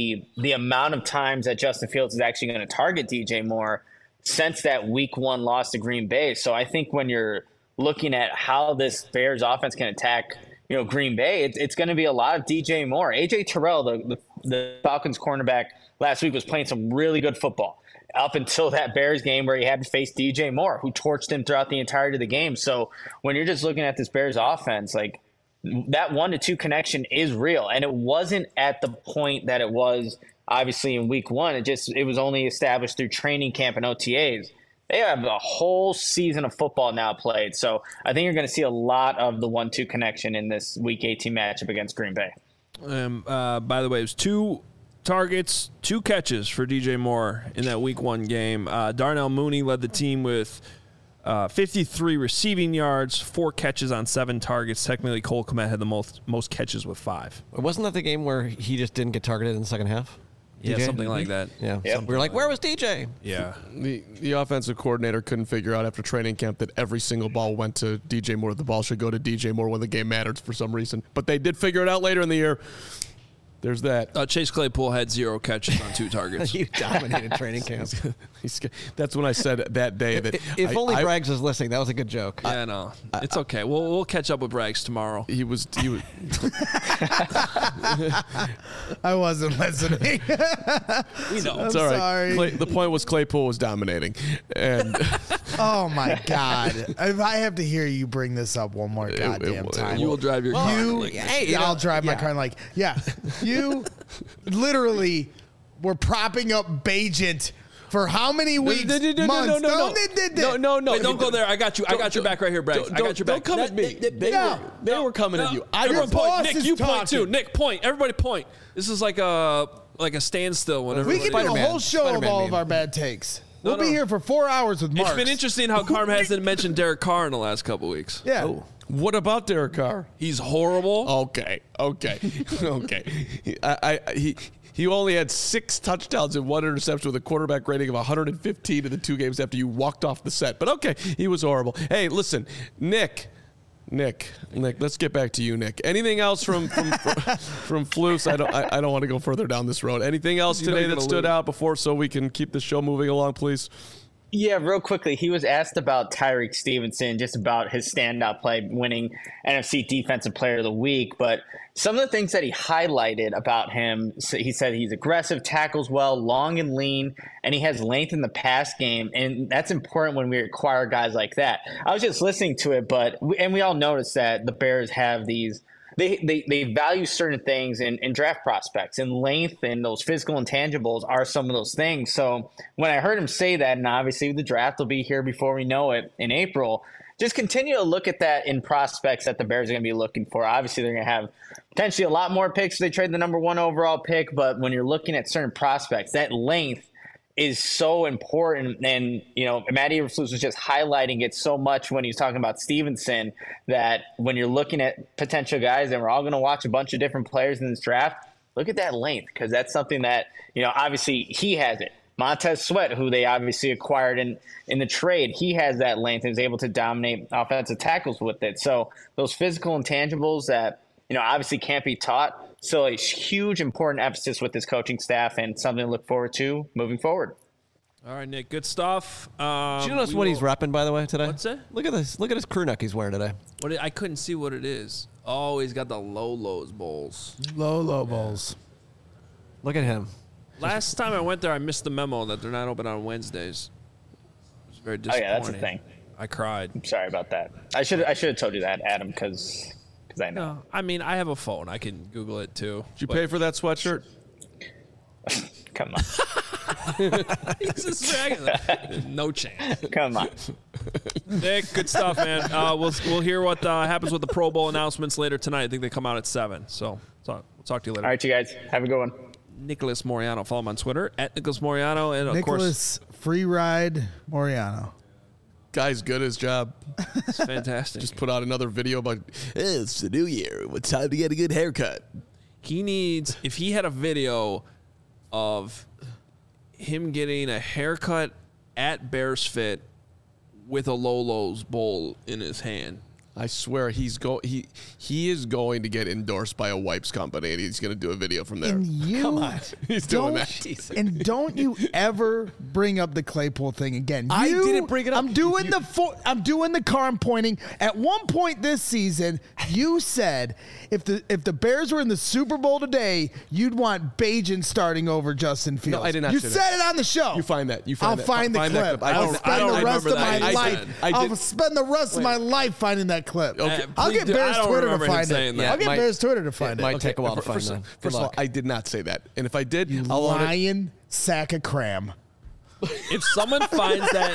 F: amount of times that Justin Fields is actually going to target DJ Moore since that week 1 loss to Green Bay. So I think when you're looking at how this Bears offense can attack, Green Bay, it's going to be a lot of DJ Moore. AJ Terrell, the Falcons cornerback last week, was playing some really good football up until that Bears game where he had to face DJ Moore, who torched him throughout the entirety of the game. So when you're just looking at this Bears offense, like that 1-2 connection is real. And it wasn't at the point that it was obviously in week 1. It was only established through training camp and OTAs. they have a whole season of football now played. So I think you're going to see a lot of the 1-2 connection in this Week 18 matchup against Green Bay.
A: By the way, it was 2 targets, 2 catches for DJ Moore in that Week 1 game. Darnell Mooney led the team with 53 receiving yards, 4 catches on 7 targets. Technically, Cole Kmet had the most catches with 5.
B: Wasn't that the game where he just didn't get targeted in the second half?
A: Yeah,
B: DJ?
A: something like that.
B: Yeah, we were like, where was DJ?
A: Yeah.
C: The offensive coordinator couldn't figure out after training camp that every single ball went to DJ Moore. The ball should go to DJ Moore when the game matters for some reason. But they did figure it out later in the year. There's that.
A: Chase Claypool had 0 catches on 2 targets.
B: You dominated training camp.
C: That's when I said that day that
B: if only Braggs was listening, that was a good joke.
A: Yeah, no, it's okay. We'll catch up with Braggs tomorrow.
C: He was.
D: I wasn't listening.
A: We know.
C: It's all right.
D: Sorry.
C: The point was Claypool was dominating, and
D: Oh my God! If I have to hear you bring this up one more goddamn time,
A: You will drive your car.
D: I'll drive my car and you literally were propping up Bagent for how many weeks? Months?
C: No.
A: Wait, don't go there. I got you. I got your back right here, Braggs. I got your back.
C: Don't come at me. They were coming at you.
A: Everyone point. Nick, you point too.
D: talking.
A: Nick, point. Everybody point. This is like a standstill. Whenever
D: We can do a
B: Spider-Man.
D: whole show of
B: Spider-Man
D: all
B: meme.
D: of our bad takes.
A: No,
D: We'll be here for 4 hours with Mark.
A: It's been interesting how Carm hasn't mentioned Derek Carr in the last couple weeks.
D: Yeah.
C: What about Derek Carr?
A: He's horrible.
C: Okay. He only had 6 touchdowns and 1 interception with a quarterback rating of 115 in the 2 games after you walked off the set. But okay, he was horrible. Hey, listen, Nick, let's get back to you, Nick. Anything else from Flus? I don't want to go further down this road. Anything else today that stood out before so we can keep the show moving along, please?
F: Yeah, real quickly, he was asked about Tyreek Stevenson, just about his standout play, winning NFC Defensive Player of the Week. But some of the things that he highlighted about him, he said he's aggressive, tackles well, long and lean, and he has length in the pass game. And that's important when we acquire guys like that. I was just listening to it, and we all noticed that the Bears have these – They value certain things in draft prospects, and length and those physical intangibles are some of those things. So when I heard him say that, and obviously the draft will be here before we know it in April, just continue to look at that in prospects that the Bears are going to be looking for. Obviously, they're going to have potentially a lot more picks if they trade the number 1 overall pick, but when you're looking at certain prospects, that length is so important. And, Matt Eberflus was just highlighting it so much when he was talking about Stevenson, that when you're looking at potential guys, and we're all going to watch a bunch of different players in this draft, look at that length, because that's something that, obviously he has it. Montez Sweat, who they obviously acquired in the trade, he has that length and is able to dominate offensive tackles with it. So those physical intangibles that, obviously can't be taught, so a huge, important emphasis with this coaching staff and something to look forward to moving forward.
A: All right, Nick, good stuff.
B: Did you notice what he's repping, by the way, today?
A: What's that?
B: Look at this. Look at his crew neck he's wearing today.
A: I couldn't see what it is. Oh, he's got the Lolo's bowls.
D: Low bowls.
B: Look at him.
A: Last time I went there, I missed the memo that they're not open on Wednesdays. It was very
F: Oh
A: disappointing.
F: yeah, that's a thing.
A: I cried.
F: I'm sorry about that. I should have told you that, Adam, because I know.
A: No, I mean, I have a phone. I can Google it too.
C: Did you pay for that sweatshirt?
F: Come on.
A: He's just dragging. No chance.
F: Come on.
A: Nick, good stuff, man. We'll hear what happens with the Pro Bowl announcements later tonight. I think they come out at 7. So we'll talk to you later.
F: All right, you guys. Have a good one.
A: Nicholas Moriano. Follow him on Twitter at Nicholas Moriano. And, of
D: Nicholas
A: course,
D: Free Ride Moriano.
C: Guy's good at his job.
A: it's fantastic.
C: Just put out another video about, hey, it's the new year. It's time to get a good haircut.
A: He needs, if he had a video of him getting a haircut at Bears Fit with a Lolo's bowl in his hand.
C: I swear he is going to get endorsed by a wipes company, and he's going to do a video from there.
D: And you
B: Come on.
C: He's doing that.
D: And don't you ever bring up the Claypool thing again.
B: I didn't bring it up.
D: I'm doing the car. I'm pointing. At one point this season, you said if the Bears were in the Super Bowl today, you'd want Bagent starting over Justin Fields.
C: No, I did not
D: You
C: say
D: said
C: that.
D: it on the show.
C: You find that.
D: I'll find the clip. I'll spend the rest of my life. I'll spend the rest of my life finding that clip.
C: Okay.
D: I'll get Bears Twitter to find it.
A: that.
D: I'll get Bears Twitter to find
B: It might
D: it.
B: take a while to find that.
C: First of all, I did not say that. And if I did, I'll own it.
D: Lion sack of cram.
A: If someone finds that,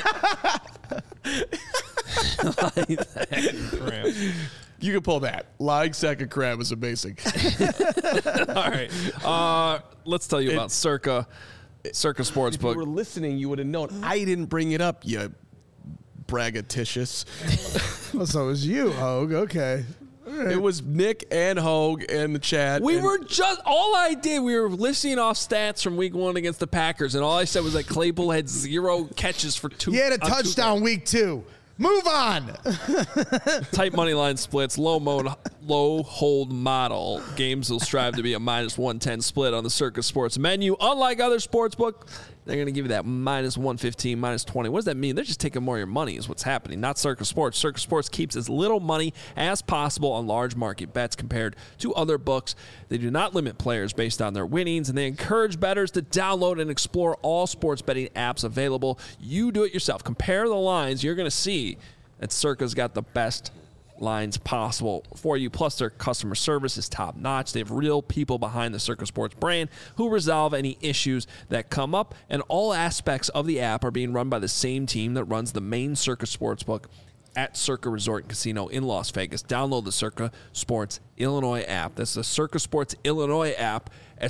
C: You can pull that. Lying sack of crab is amazing.
A: all right. Let's tell you about Circa Sportsbook.
C: If you were listening, you would have known. I didn't bring it up, you braggadocious.
D: Well, so it was you, Hogue. Okay.
C: It was Nick and Hogue and the chat.
A: We were listing off stats from week 1 against the Packers, and all I said was that Claypool had 0 catches for 2.
D: He had a touchdown week 2. Move on.
A: Tight money line splits, low hold model. Games will strive to be a -110 split on the Circa Sports menu. Unlike other sportsbook, they're going to give you that -115, -20. What does that mean? They're just taking more of your money is what's happening, not Circa Sports. Circa Sports keeps as little money as possible on large market bets compared to other books. They do not limit players based on their winnings, and they encourage bettors to download and explore all sports betting apps available. You do it yourself. Compare the lines. You're going to see that Circa's got the best lines possible for you. Plus, their customer service is top notch. They have real people behind the Circa Sports brand who resolve any issues that come up, and all aspects of the app are being run by the same team that runs the main Circa Sportsbook at Circa Resort and Casino in Las Vegas. Download the Circa Sports Illinois app. That's the Circa Sports Illinois app at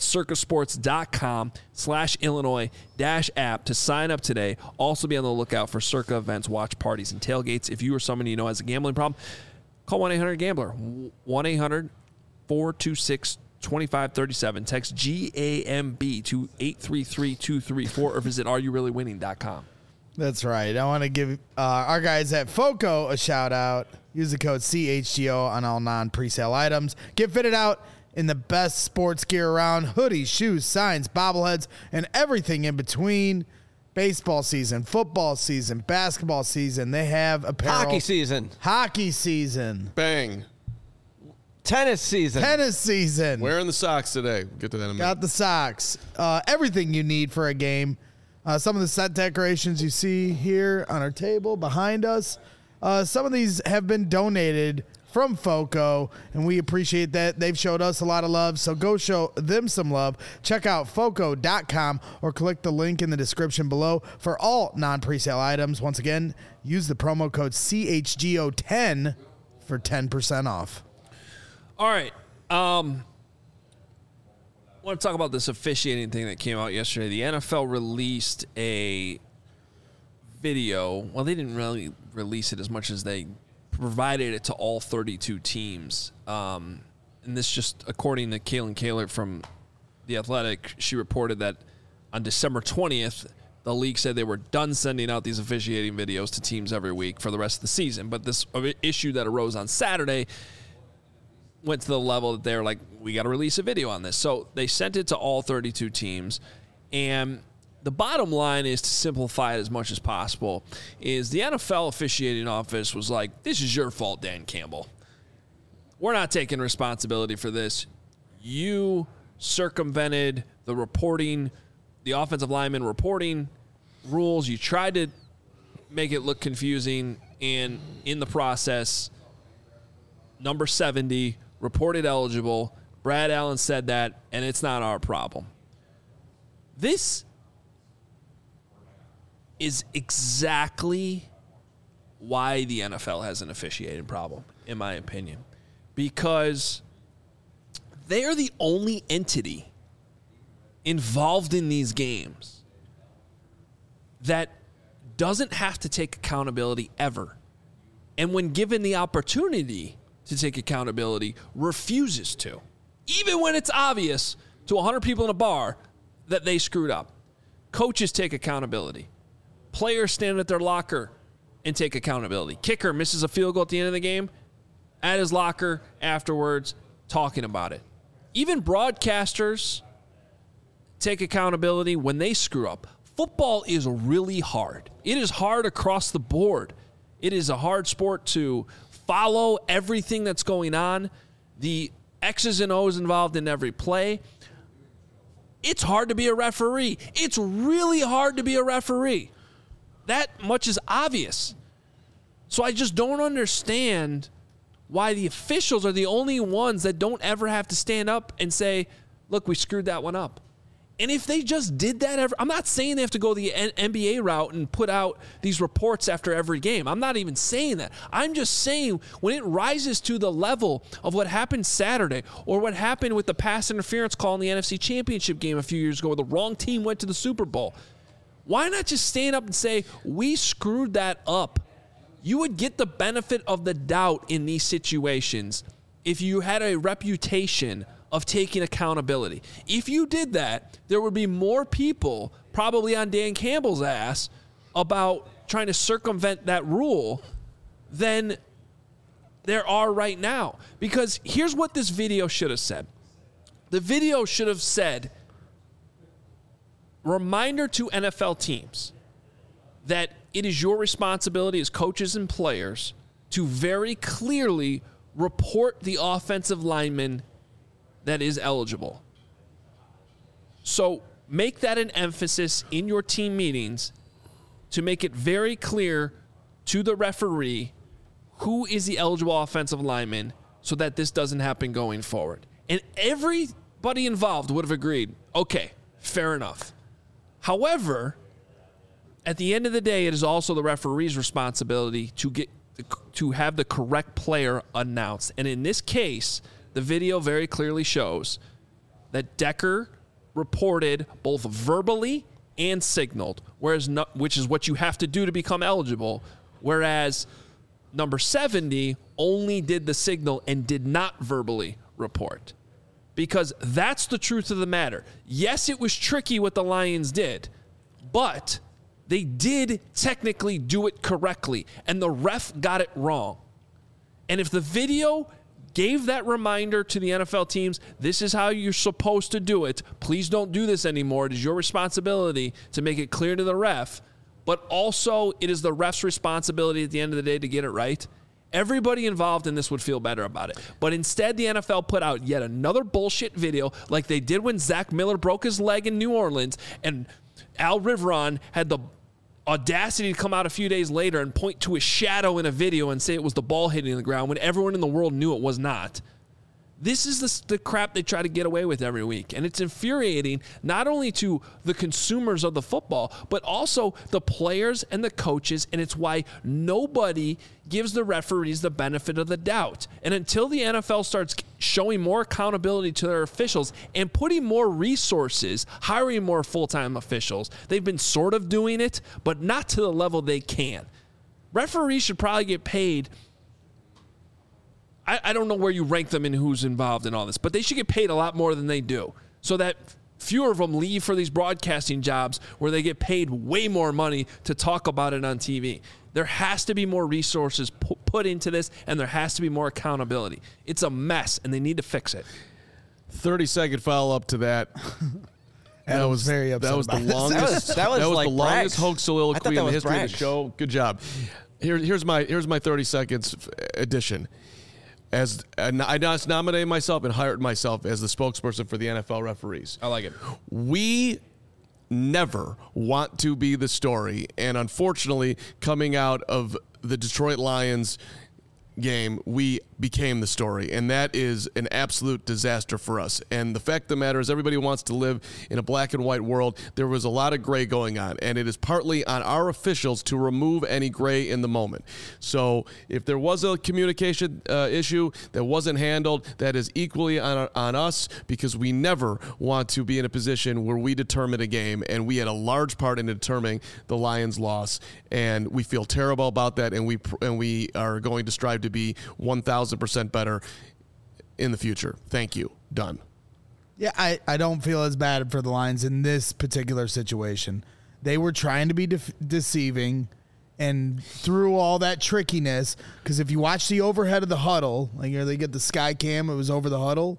A: circasports.com/Illinois-app to sign up today. Also be on the lookout for Circa events, watch parties, and tailgates. If you or someone you know has a gambling problem, call 1-800-GAMBLER, 1-800-426-2537. Text GAMB to 833-234 or visit areyoureallywinning.com.
D: That's right. I want to give our guys at FOCO a shout out. Use the code CHGO on all non-presale items. Get fitted out in the best sports gear around: hoodies, shoes, signs, bobbleheads, and everything in between. Baseball season, football season, basketball season. They have apparel.
B: Hockey season.
C: Bang.
B: Tennis season.
C: Wearing the socks today. We'll get to that in a minute.
D: Got the socks. Everything you need for a game. Some of the set decorations you see here on our table behind us, some of these have been donated from FOCO, and we appreciate that. They've showed us a lot of love, so go show them some love. Check out FOCO.com or click the link in the description below for all non-presale items. Once again, use the promo code CHGO10 for 10% off.
A: All right. I want to talk about this officiating thing that came out yesterday. The NFL released a video. Well, they didn't really release it as much as they provided it to all 32 teams. And this just, according to Kaylin Kaler from The Athletic, she reported that on December 20th, the league said they were done sending out these officiating videos to teams every week for the rest of the season. But this issue that arose on Saturday went to the level that they were like, we got to release a video on this. So they sent it to all 32 teams. And the bottom line is, to simplify it as much as possible, is the NFL officiating office was like, this is your fault, Dan Campbell. We're not taking responsibility for this. You circumvented the reporting, the offensive lineman reporting rules. You tried to make it look confusing, and in the process, number 70 reported eligible. Brad Allen said that, and it's not our problem. This is exactly why the NFL has an officiating problem, in my opinion, because they are the only entity involved in these games that doesn't have to take accountability ever. And when given the opportunity to take accountability, refuses to. Even when it's obvious to 100 people in a bar that they screwed up. Coaches take accountability. Players stand at their locker and take accountability. Kicker misses a field goal at the end of the game, at his locker afterwards, talking about it. Even broadcasters take accountability when they screw up. Football is really hard. It is hard across the board. It is a hard sport to follow everything that's going on. The X's and O's involved in every play. It's hard to be a referee. It's really hard to be a referee. That much is obvious. So I just don't understand why the officials are the only ones that don't ever have to stand up and say, look, we screwed that one up. And if they just did that I'm not saying they have to go the NBA route and put out these reports after every game. I'm not even saying that. I'm just saying when it rises to the level of what happened Saturday or what happened with the pass interference call in the NFC Championship game a few years ago where the wrong team went to the Super Bowl, why not just stand up and say, we screwed that up? You would get the benefit of the doubt in these situations if you had a reputation of taking accountability. If you did that, there would be more people probably on Dan Campbell's ass about trying to circumvent that rule than there are right now. Because here's what this video should have said. The video should have said, reminder to NFL teams that it is your responsibility as coaches and players to very clearly report the offensive lineman that is eligible. So make that an emphasis in your team meetings to make it very clear to the referee who is the eligible offensive lineman so that this doesn't happen going forward. And everybody involved would have agreed, okay, fair enough. However, at the end of the day, it is also the referee's responsibility to have the correct player announced. And in this case, the video very clearly shows that Decker reported both verbally and signaled, which is what you have to do to become eligible, whereas number 70 only did the signal and did not verbally report. Because that's the truth of the matter. Yes, it was tricky what the Lions did, but they did technically do it correctly, and the ref got it wrong. And if the video gave that reminder to the NFL teams, this is how you're supposed to do it. Please don't do this anymore. It is your responsibility to make it clear to the ref, but also it is the ref's responsibility at the end of the day to get it right. Everybody involved in this would feel better about it. But instead, the NFL put out yet another bullshit video like they did when Zach Miller broke his leg in New Orleans and Al Riveron had the audacity to come out a few days later and point to a shadow in a video and say it was the ball hitting the ground when everyone in the world knew it was not. This is the crap they try to get away with every week. And it's infuriating not only to the consumers of the football, but also the players and the coaches. And it's why nobody gives the referees the benefit of the doubt. And until the NFL starts showing more accountability to their officials and putting more resources, hiring more full-time officials, they've been sort of doing it, but not to the level they can. Referees should probably get paid. I don't know where you rank them and who's involved in all this, but they should get paid a lot more than they do so that fewer of them leave for these broadcasting jobs where they get paid way more money to talk about it on TV. There has to be more resources put into this, and there has to be more accountability. It's a mess, and they need to fix it.
C: 30-second follow-up to that.
D: That was very upset.
C: That was the
D: about
C: longest.
B: That was like
C: the longest
B: Braggs.
C: hoax soliloquy in the history of the
B: Braggs.
C: show. Good job. Here's my 30 seconds edition. As I just nominated myself and hired myself as the spokesperson for the NFL referees.
A: I like it.
C: We never want to be the story, and unfortunately, coming out of the Detroit Lions game, we became the story, and that is an absolute disaster for us. And the fact of the matter is everybody wants to live in a black and white world. There was a lot of gray going on, and it is partly on our officials to remove any gray in the moment. So if there was a communication issue that wasn't handled, that is equally on us, because we never want to be in a position where we determine a game, and we had a large part in determining the Lions' loss, and we feel terrible about that, and we are going to strive to be 1,000% better in the future. Thank you. Done.
D: Yeah, I don't feel as bad for the Lions in this particular situation. They were trying to be deceiving, and through all that trickiness, because if you watch the overhead of the huddle, like they get the sky cam, it was over the huddle,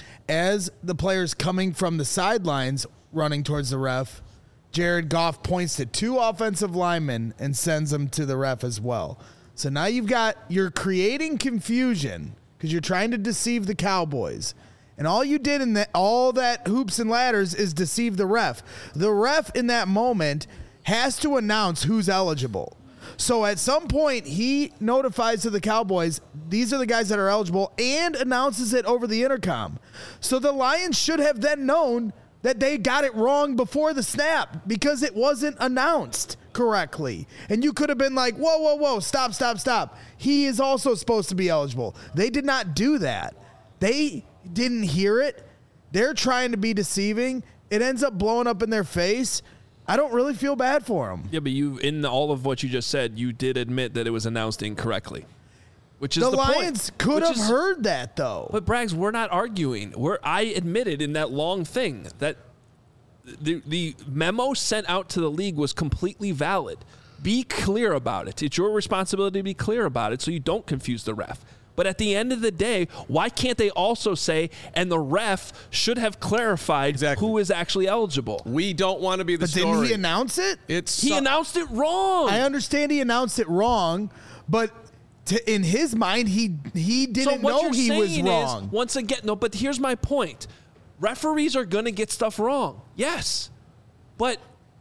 D: as the players coming from the sidelines running towards the ref, Jared Goff points to two offensive linemen and sends them to the ref as well. So now you're creating confusion because you're trying to deceive the Cowboys. And all you did in all that hoops and ladders is deceive the ref. The ref in that moment has to announce who's eligible. So at some point, he notifies to the Cowboys, these are the guys that are eligible, and announces it over the intercom. So the Lions should have then known that they got it wrong before the snap because it wasn't announced correctly. And you could have been like, whoa, stop. He is also supposed to be eligible. They did not do that. They didn't hear it. They're trying to be deceiving. It ends up blowing up in their face. I don't really feel bad for them.
A: Yeah, but in all of what you just said, you did admit that it was announced incorrectly. Which is
D: the
A: Lions
D: point. Could have heard that, though.
A: But, Braggs, we're not arguing. I admitted in that long thing that the memo sent out to the league was completely valid. Be clear about it. It's your responsibility to be clear about it so you don't confuse the ref. But at the end of the day, why can't they also say, and the ref should have clarified who is actually eligible?
C: We don't want to be the story.
D: But didn't he announce it?
A: He announced it wrong.
D: I understand he announced it wrong, but in his mind, he didn't know he was wrong.
A: Once again, no, but here's my point. Referees are going to get stuff wrong. Yes. But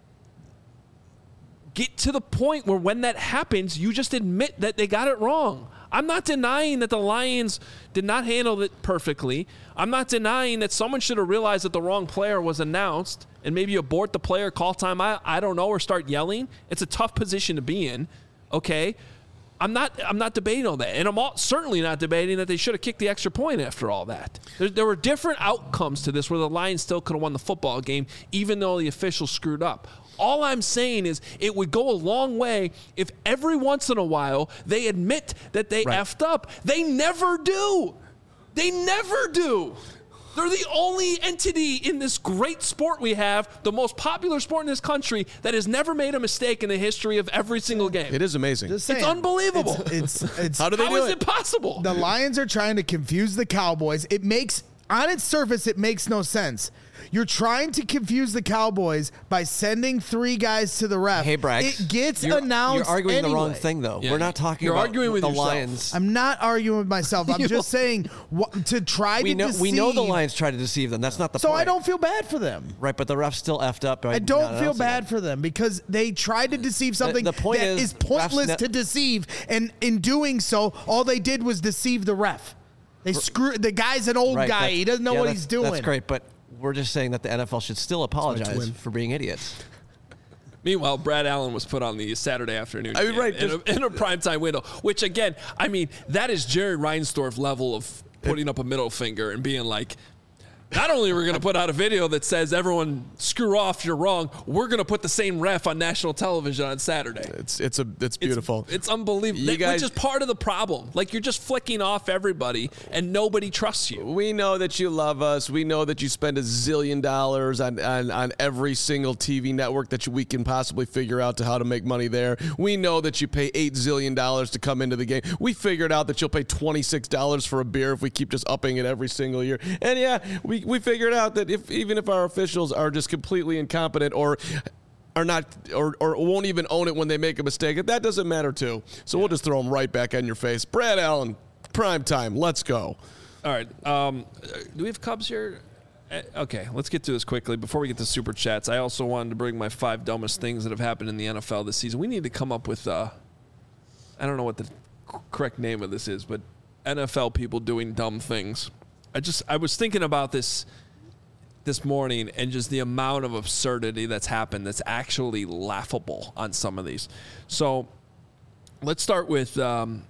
A: get to the point where when that happens, you just admit that they got it wrong. I'm not denying that the Lions did not handle it perfectly. I'm not denying that someone should have realized that the wrong player was announced and maybe abort the player, call time, I don't know, or start yelling. It's a tough position to be in, okay? I'm not debating all that. And I'm certainly not debating that they should have kicked the extra point after all that. There were different outcomes to this where the Lions still could have won the football game even though the officials screwed up. All I'm saying is it would go a long way if every once in a while they admit that they effed up. They never do. They never do. They're the only entity in this great sport we have, the most popular sport in this country, that has never made a mistake in the history of every single game.
C: It is amazing.
D: Just saying,
A: it's unbelievable.
C: How do they do
A: How is it possible?
D: The Lions are trying to confuse the Cowboys. On its surface, it makes no sense. You're trying to confuse the Cowboys by sending 3 guys to the ref.
B: Hey, Braggs.
D: It gets announced.
B: You're arguing
D: anyway.
B: the wrong thing, though.
A: Yeah,
B: We're not talking
A: you're
B: about
A: arguing with
B: the
A: yourself.
B: Lions.
D: I'm not arguing with myself. I'm just saying to try to deceive.
B: We know the Lions try to deceive them. That's not the point.
D: So I don't feel bad for them.
B: Right, but the refs still effed up.
D: I don't feel bad for them because they tried to deceive something
B: The point
D: that is pointless to deceive. And in doing so, all they did was deceive the ref. They screwed the guy's an old guy. He doesn't know what he's doing.
B: That's great, but we're just saying that the NFL should still apologize for being idiots.
A: Meanwhile, Brad Allen was put on the Saturday afternoon game in a primetime window, which, again, I mean, that is Jerry Reinsdorf level of putting up a middle finger and being like, not only are we going to put out a video that says everyone screw off, you're wrong, we're going to put the same ref on national television on Saturday.
C: It's beautiful.
A: It's unbelievable. Which is part of the problem. Like, you're just flicking off everybody and nobody trusts you.
C: We know that you love us. We know that you spend $1 zillion on every single TV network that we can possibly figure out to how to make money there. We know that you pay $8 zillion to come into the game. We figured out that you'll pay $26 for a beer if we keep just upping it every single year. And yeah, we figured out that even if our officials are just completely incompetent or are not or won't even own it when they make a mistake, that doesn't matter too. So we'll just throw them right back on your face. Brad Allen, prime time. Let's go.
A: All right. Do we have Cubs here? Okay, let's get to this quickly. Before we get to Super Chats, I also wanted to bring my 5 dumbest things that have happened in the NFL this season. We need to come up with, I don't know what the correct name of this is, but NFL people doing dumb things. I was thinking about this morning and just the amount of absurdity that's happened that's actually laughable on some of these. So let's start with David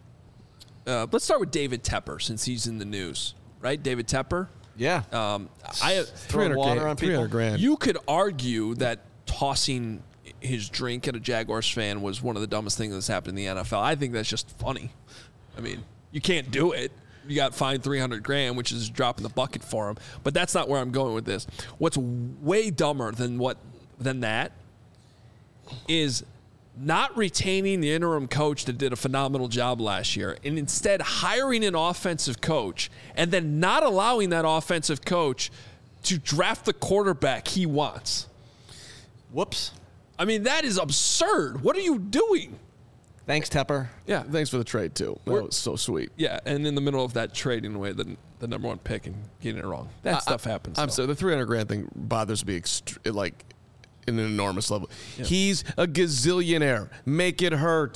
A: Tepper since he's in the news, right? David Tepper.
B: Yeah.
A: I have
C: $300,000.
A: You could argue that tossing his drink at a Jaguars fan was one of the dumbest things that's happened in the NFL. I think that's just funny. I mean, you can't do it. You got fined $300,000, which is a drop in the bucket for him. But that's not where I'm going with this. What's way dumber than that is not retaining the interim coach that did a phenomenal job last year and instead hiring an offensive coach and then not allowing that offensive coach to draft the quarterback he wants.
B: Whoops.
A: I mean, that is absurd. What are you doing?
B: Thanks, Tepper.
C: Yeah, thanks for the trade, too. That was so sweet.
A: Yeah, and in the middle of that trading away the number 1 pick and getting it wrong. That stuff happens.
C: I'm sorry, the $300,000 thing bothers me in an enormous level. Yeah. He's a gazillionaire. Make it hurt.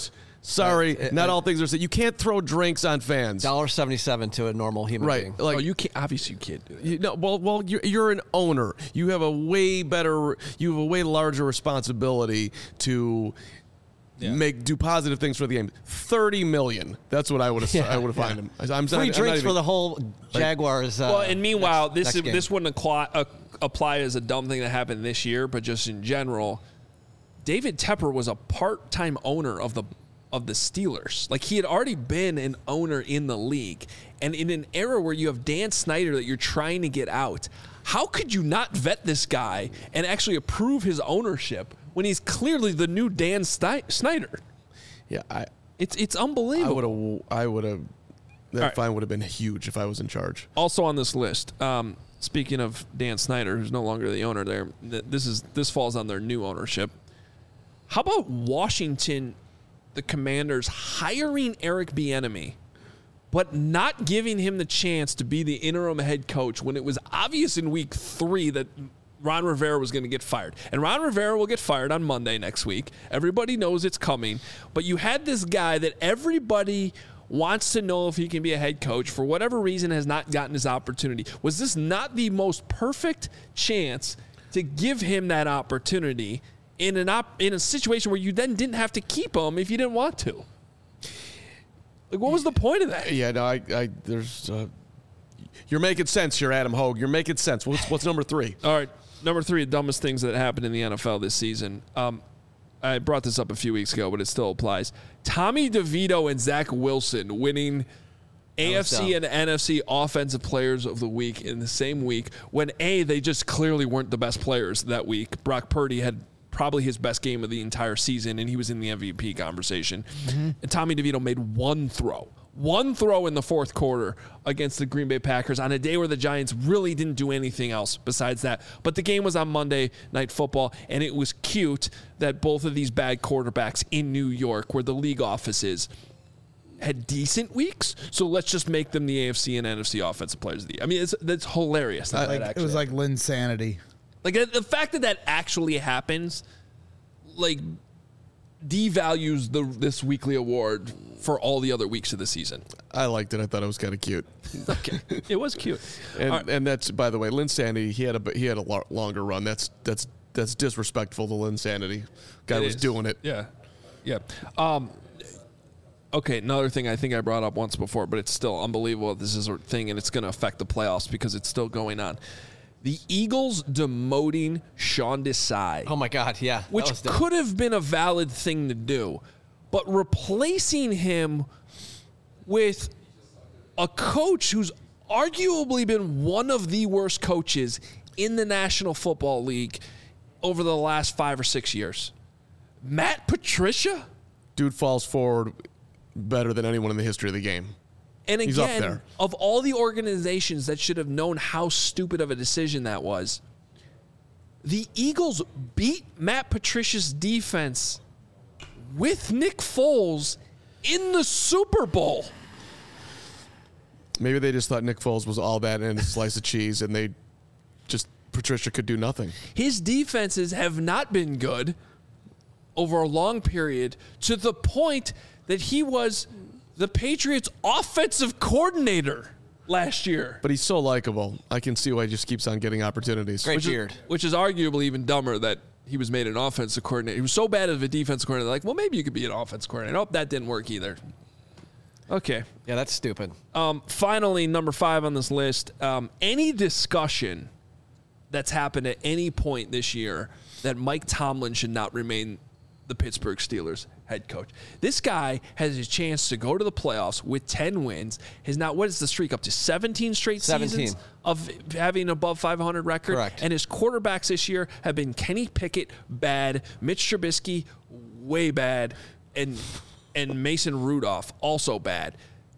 C: Sorry, not all things are said. You can't throw drinks on fans.
B: $1.77 to a normal human being.
C: Like,
A: you can't. Obviously, you can't do that.
C: Well, you're an owner. You have a way larger responsibility to do positive things for the game. $30 million. That's what I would have. I would have fined him.
B: Free drinks for the whole Jaguars.
A: Well, and meanwhile,
B: next
A: this wouldn't apply as a dumb thing that happened this year, but just in general, David Tepper was a part-time owner of the Steelers. Like, he had already been an owner in the league. And in an era where you have Dan Snyder that you're trying to get out, how could you not vet this guy and actually approve his ownership when he's clearly the new Dan Snyder?
C: Yeah,
A: it's unbelievable.
C: That fine would have been huge if I was in charge.
A: Also on this list, speaking of Dan Snyder, who's no longer the owner there, this falls on their new ownership. How about Washington, the Commanders, hiring Eric Bieniemy, but not giving him the chance to be the interim head coach when it was obvious in week 3 that Ron Rivera was going to get fired. And Ron Rivera will get fired on Monday next week. Everybody knows it's coming. But you had this guy that everybody wants to know if he can be a head coach, for whatever reason has not gotten his opportunity. Was this not the most perfect chance to give him that opportunity in a situation where you then didn't have to keep him if you didn't want to? Like, what was the point of that?
C: Yeah, no, there's you're making sense here, Adam Hogue. You're making sense. What's number 3?
A: All right, number 3, the dumbest things that happened in the NFL this season. I brought this up a few weeks ago, but it still applies. Tommy DeVito and Zach Wilson winning AFC and NFC Offensive Players of the Week in the same week when, they just clearly weren't the best players that week. Brock Purdy had probably his best game of the entire season, and he was in the MVP conversation. Mm-hmm. And Tommy DeVito made one throw in the fourth quarter against the Green Bay Packers on a day where the Giants really didn't do anything else besides that. But the game was on Monday Night Football, and it was cute that both of these bad quarterbacks in New York, where the league office is, had decent weeks. So let's just make them the AFC and NFC Offensive Players of the Year. I mean, that's hilarious.
D: It was like Linsanity.
A: Like, the fact that actually happens, like, devalues this weekly award for all the other weeks of the season.
C: I liked it. I thought it was kind of cute.
A: Okay, it was cute.
C: And that's, by the way, Linsanity. He had a longer run. That's disrespectful to Linsanity. Guy was doing it.
A: Yeah. Okay, another thing I think I brought up once before, but it's still unbelievable. This is a thing, and it's going to affect the playoffs because it's still going on. The Eagles demoting Sean Desai.
B: Oh, my God, yeah.
A: Which could have been a valid thing to do. But replacing him with a coach who's arguably been one of the worst coaches in the National Football League over the last 5 or 6 years. Matt Patricia?
C: Dude falls forward better than anyone in the history of the game.
A: And
C: He's up
A: again,
C: there.
A: of all the organizations that should have known how stupid of a decision that was, the Eagles beat Matt Patricia's defense with Nick Foles in the Super Bowl.
C: Maybe they just thought Nick Foles was all that and a slice of cheese, and Patricia could do nothing.
A: His defenses have not been good over a long period, to the point that he was the Patriots' offensive coordinator last year.
C: But he's so likable. I can see why he just keeps on getting opportunities.
B: Great beard.
A: Which is arguably even dumber that he was made an offensive coordinator. He was so bad as a defensive coordinator. Like, well, maybe you could be an offensive coordinator. Nope, that didn't work either. Okay.
B: Yeah, that's stupid.
A: Finally, number 5 on this list, any discussion that's happened at any point this year that Mike Tomlin should not remain the Pittsburgh Steelers head coach. This guy has a chance to go to the playoffs with 10 wins. What is the streak up to? 17 straight seasons of having an above 500 record?
B: Correct.
A: And his quarterbacks this year have been Kenny Pickett, bad, Mitch Trubisky, way bad, and Mason Rudolph, also bad.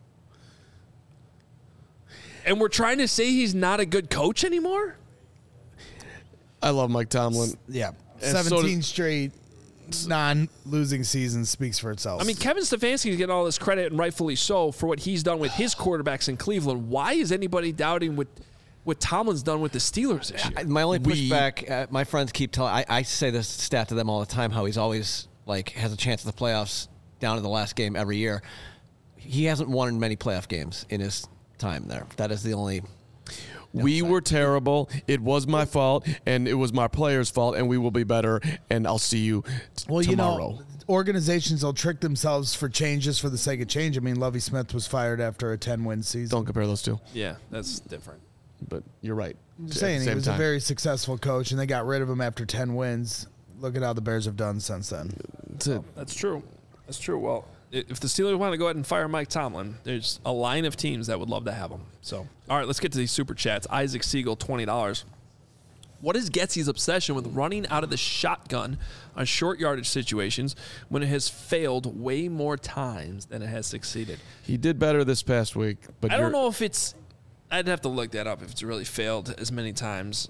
A: And we're trying to say he's not a good coach anymore?
C: I love Mike Tomlin.
D: Yeah.
C: And
D: 17 straight non-losing seasons speaks for itself.
A: I mean, Kevin Stefanski's getting all this credit, and rightfully so, for what he's done with his quarterbacks in Cleveland. Why is anybody doubting what Tomlin's done with the Steelers this year?
B: My only pushback, my friends keep telling, I say this stat to them all the time, how he's always, like, has a chance at the playoffs down in the last game every year. He hasn't won many playoff games in his time there. That is the only.
C: We were terrible. It was my fault, and it was my players' fault, and we will be better. And I'll see you tomorrow.
D: You know, organizations will trick themselves for changes for the sake of change. I mean, Lovie Smith was fired after a 10-win season.
C: Don't compare those two.
A: Yeah, that's different.
C: But you're right.
D: I'm just saying, he was a very successful coach, and they got rid of him after 10 wins. Look at how the Bears have done since then.
A: That's true. That's true. Well, if the Steelers want to go ahead and fire Mike Tomlin, there's a line of teams that would love to have him. So, all right, let's get to these super chats. Isaac Siegel, $20. What is Getsy's obsession with running out of the shotgun on short yardage situations when it has failed way more times than it has succeeded?
C: He did better this past week, but
A: I don't know if it's. I'd have to look that up if it's really failed as many times.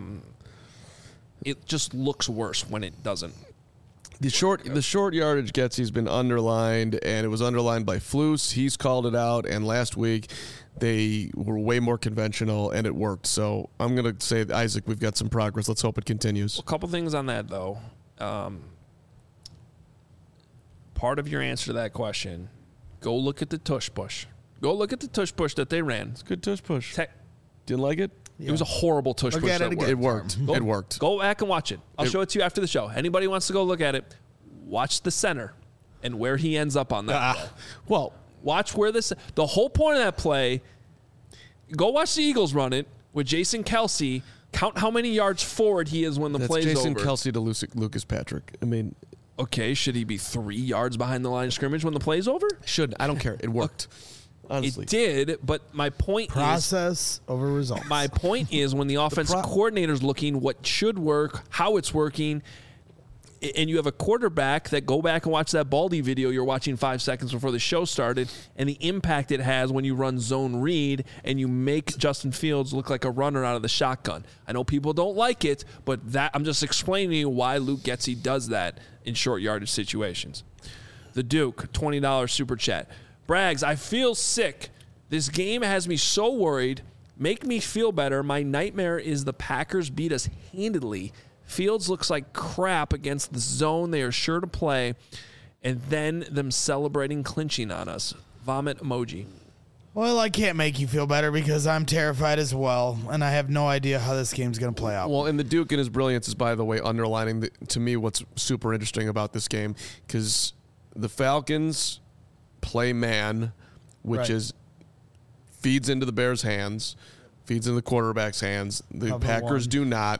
A: It just looks worse when it doesn't.
C: The short yardage Getsy's been underlined, and it was underlined by Flus. He's called it out, and last week they were way more conventional, and it worked. So I'm going to say, Isaac, we've got some progress. Let's hope it continues.
A: A couple things on that, though. Part of your answer to that question, go look at the tush push. Go look at the tush push that they ran.
C: It's a good tush push. Didn't like it?
A: It was a horrible tush push.
C: It worked. It worked.
A: Go back and watch it. I'll show it to you after the show. Anybody wants to go look at it, watch the center and where he ends up on that play.
C: Well,
A: watch where the whole point of that play, go watch the Eagles run it with Jason Kelce. Count how many yards forward he is when the play's over.
C: Jason Kelce to Lucas Patrick. I mean,
A: okay, should he be 3 yards behind the line of scrimmage when the play's over?
C: Should. I don't care. It worked. Honestly.
A: It did, but my point
D: Process over results.
A: My point is when the offensive coordinator's looking what should work, how it's working, and you have a quarterback that go back and watch that Baldy video you're watching 5 seconds before the show started, and the impact it has when you run zone read and you make Justin Fields look like a runner out of the shotgun. I know people don't like it, but that I'm just explaining to you why Luke Getsy does that in short yardage situations. The Duke, $20 super chat. Braggs, I feel sick. This game has me so worried. Make me feel better. My nightmare is the Packers beat us handedly. Fields looks like crap against the zone they are sure to play, and then them celebrating clinching on us. Vomit emoji.
D: Well, I can't make you feel better because I'm terrified as well, and I have no idea how this game's going to play out.
C: Well, and the Duke and his brilliance is, by the way, underlining to me what's super interesting about this game, because the Falcons play man, which is feeds into the Bears' hands, feeds into the quarterback's hands. The Packers do not.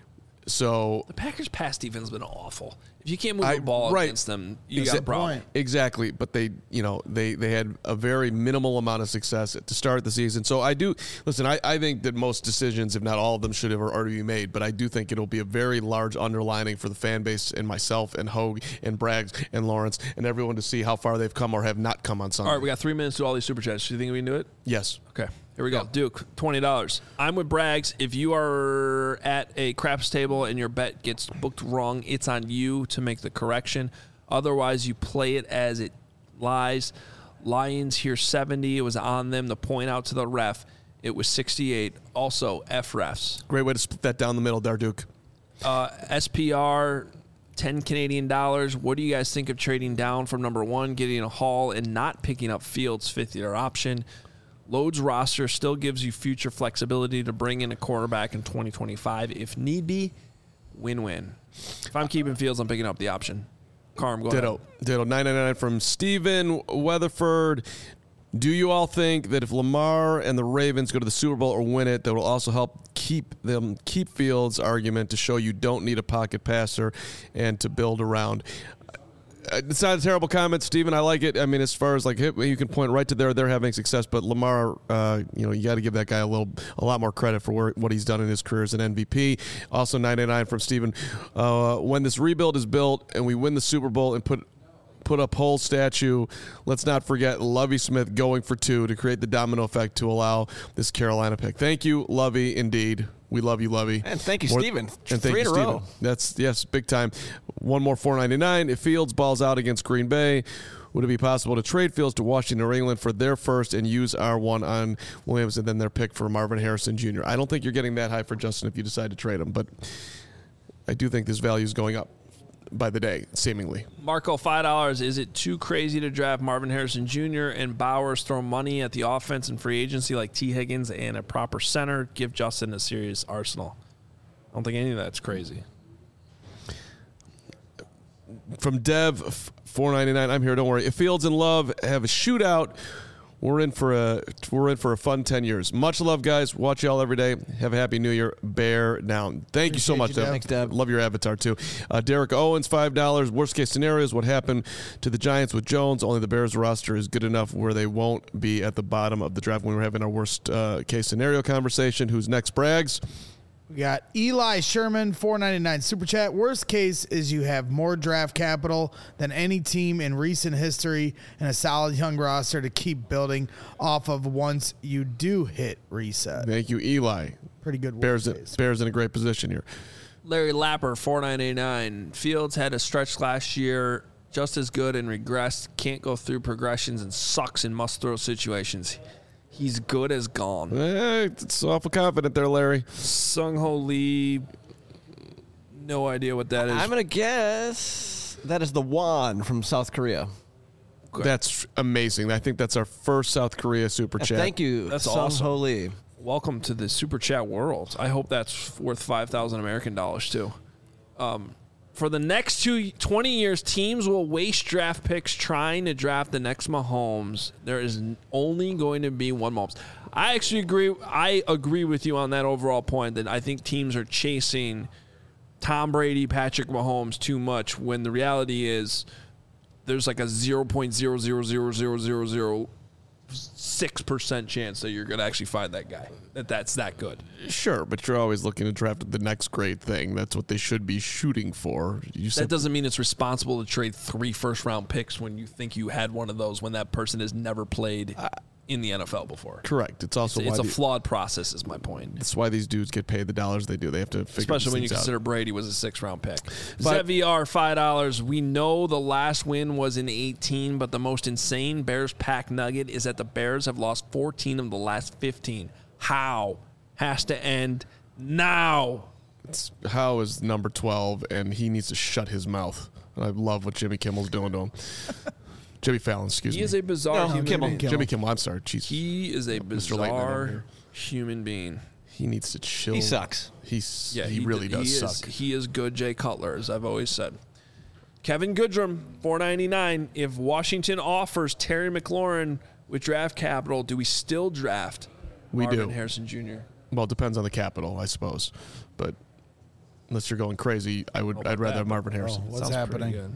C: So
A: the Packers' pass defense has been awful. If you can't move the ball against them, you got a problem.
C: Exactly, but they had a very minimal amount of success to start the season. So I think that most decisions, if not all of them, should have already been made. But I do think it'll be a very large underlining for the fan base and myself and Hogue and Braggs and Lawrence and everyone to see how far they've come or have not come on Sunday.
A: All right, we got 3 minutes to do all these super chats. Do you think we can do it?
C: Yes.
A: Okay. Here we go. Duke, $20. I'm with Braggs. If you are at a craps table and your bet gets booked wrong, it's on you to make the correction. Otherwise, you play it as it lies. Lions here 70. It was on them to point out to the ref. It was 68. Also, F refs.
C: Great way to split that down the middle there, Duke.
A: SPR, $10 Canadian. What do you guys think of trading down from number 1, getting a haul, and not picking up Fields' 5th-year option? Loads roster still gives you future flexibility to bring in a quarterback in 2025 if need be. Win-win. If I'm keeping Fields, I'm picking up the option. Carm, go ahead.
C: Ditto. $9.99 from Steven Weatherford. Do you all think that if Lamar and the Ravens go to the Super Bowl or win it, that will also help keep Fields' argument to show you don't need a pocket passer and to build around? It's not a terrible comment, Steven. I like it. I mean, as far as like you can point right to they're having success, but Lamar, you got to give that guy a lot more credit for what he's done in his career as an MVP. Also, 99 from Steven. When this rebuild is built and we win the Super Bowl and put up Hull's statue, let's not forget Lovie Smith going for 2 to create the domino effect to allow this Carolina pick. Thank you, Lovie, indeed. We love you, Lovie.
B: And thank you, Steven.
C: And thank you, Steven. That's, yes, big time. One more $4.99. If Fields balls out against Green Bay, would it be possible to trade Fields to Washington or England for their first and use our one on Williams and then their pick for Marvin Harrison Jr.? I don't think you're getting that high for Justin if you decide to trade him, but I do think this value is going up. by the day, seemingly.
A: Marco, $5. Is it too crazy to draft Marvin Harrison Jr. and Bowers, throw money at the offense and free agency like T. Higgins and a proper center? Give Justin a serious arsenal. I don't think any of that's crazy.
C: From Dev, $4.99. I'm here. Don't worry. If Fields and Love have a shootout, we're in for a fun 10 years. Much love, guys. Watch y'all every day. Have a happy New Year. Bear down. Thank you so much, Deb.
B: Thanks, Deb.
C: Love your avatar too. Derek Owens, $5. Worst case scenarios. What happened to the Giants with Jones? Only the Bears roster is good enough where they won't be at the bottom of the draft when we're having our worst case scenario conversation. Who's next, Braggs?
D: We got Eli Sherman, $4.99 super chat. Worst case is you have more draft capital than any team in recent history and a solid young roster to keep building off of once you do hit reset.
C: Thank you, Eli.
D: Pretty good.
C: Bears in a great position here.
A: Larry Lapper, $4.99. Fields had a stretch last year, just as good and regressed. Can't go through progressions and sucks in must-throw situations. He's good as gone.
C: It's awful confident there, Larry.
A: Sung-Ho Lee, no idea what that is.
B: I'm going to guess that is the Won from South Korea.
C: That's amazing. I think that's our first South Korea super chat.
B: Thank you,
A: That's
B: Sung-Ho
A: awesome.
B: Lee.
A: Welcome to the Super Chat world. I hope that's worth 5,000 American dollars, too. For the next 20 years, teams will waste draft picks trying to draft the next Mahomes. There is only going to be one Mahomes. I actually agree. I agree with you on that overall point that I think teams are chasing Tom Brady, Patrick Mahomes too much when the reality is there's like a 0.0000006% chance that you're going to actually find that guy, that's that good.
C: Sure, but you're always looking to draft the next great thing. That's what they should be shooting for.
A: That doesn't mean it's responsible to trade 3 first-round picks when you think you had one of those when that person has never played in the NFL before.
C: Correct. It's also
A: it's a flawed process, is my point.
C: That's why these dudes get paid the dollars they do. They have to figure
A: Especially when you consider Brady was a 6th-round pick. ZVR, $5. We know the last win was in 18, but the most insane Bears-Pack nugget is that the Bears have lost 14 of the last 15. How? Has to end now.
C: How is number 12, and he needs to shut his mouth. I love what Jimmy Kimmel's doing to him. Jimmy Fallon, excuse me.
A: He is a bizarre human being.
C: Jimmy Kimmel, I'm sorry. Jeez.
A: He is a bizarre human being.
C: He needs to chill.
B: He sucks.
C: He really does suck.
A: He is good Jay Cutler, as I've always said. Kevin Goodrum, $4.99. If Washington offers Terry McLaurin with draft capital, do we still draft Marvin Harrison Jr.?
C: Well, it depends on the capital, I suppose. But unless you're going crazy, I'd rather have Marvin Harrison.
D: What's happening?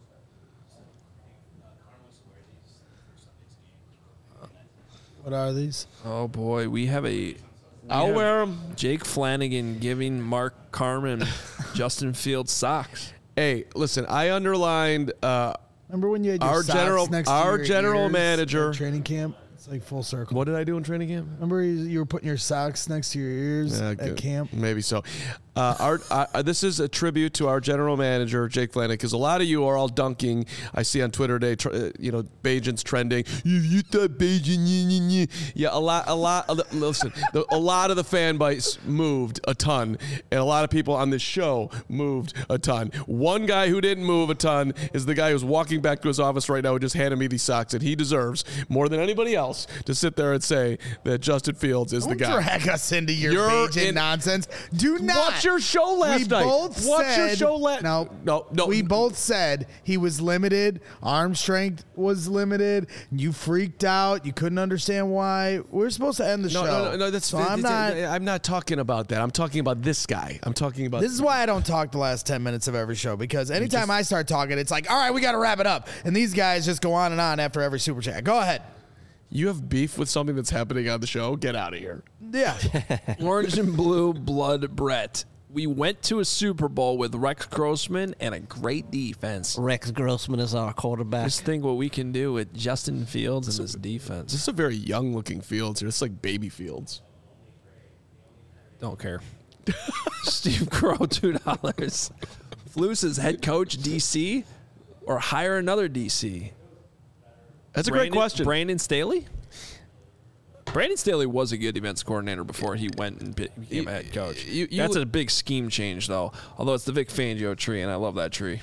D: What are these?
A: Oh, boy. We have
C: I'll wear them.
A: Jake Flanagan giving Mark Carman Justin Fields socks.
C: Hey, listen, I underlined
D: Remember when you had your
C: our
D: socks next to your
C: general
D: ears
C: mthis
D: at training camp? It's like full circle.
C: What did I do in training camp?
D: Remember you were putting your socks next to your ears at camp?
C: Maybe so. This is a tribute to our general manager, Jake Flanagan, because a lot of you are all dunking. I see on Twitter today, Bajan's trending. You thought Bajan, yeah, a lot of the fan base moved a ton, and a lot of people on this show moved a ton. One guy who didn't move a ton is the guy who's walking back to his office right now who just handed me these socks, and he deserves more than anybody else to sit there and say that Justin Fields is the guy.
D: Don't drag us into your Bajan nonsense. Do not.
C: Watch your show last night.
D: We both said he was limited. Arm strength was limited. You freaked out. You couldn't understand why. We're supposed to end the show.
C: No. I'm not talking about that. I'm talking about this guy. This
D: is why I don't talk the last 10 minutes of every show, because anytime I start talking, it's like, all right, we got to wrap it up. And these guys just go on and on after every super chat. Go ahead.
C: You have beef with something that's happening on the show? Get out of here.
D: Yeah.
A: Orange and blue blood Brett. We went to a Super Bowl with Rex Grossman and a great defense.
B: Rex Grossman is our quarterback.
A: Just think what we can do with Justin Fields and this defense.
C: This is a very young-looking Fields here. It's like baby Fields.
A: Don't care. Steve Crow, $2. Flus is head coach DC or hire another DC?
C: That's a great question.
A: Brandon Staley? Brandon Staley was a good events coordinator before he went and became a head coach. That's a big scheme change, though, although it's the Vic Fangio tree, and I love that tree.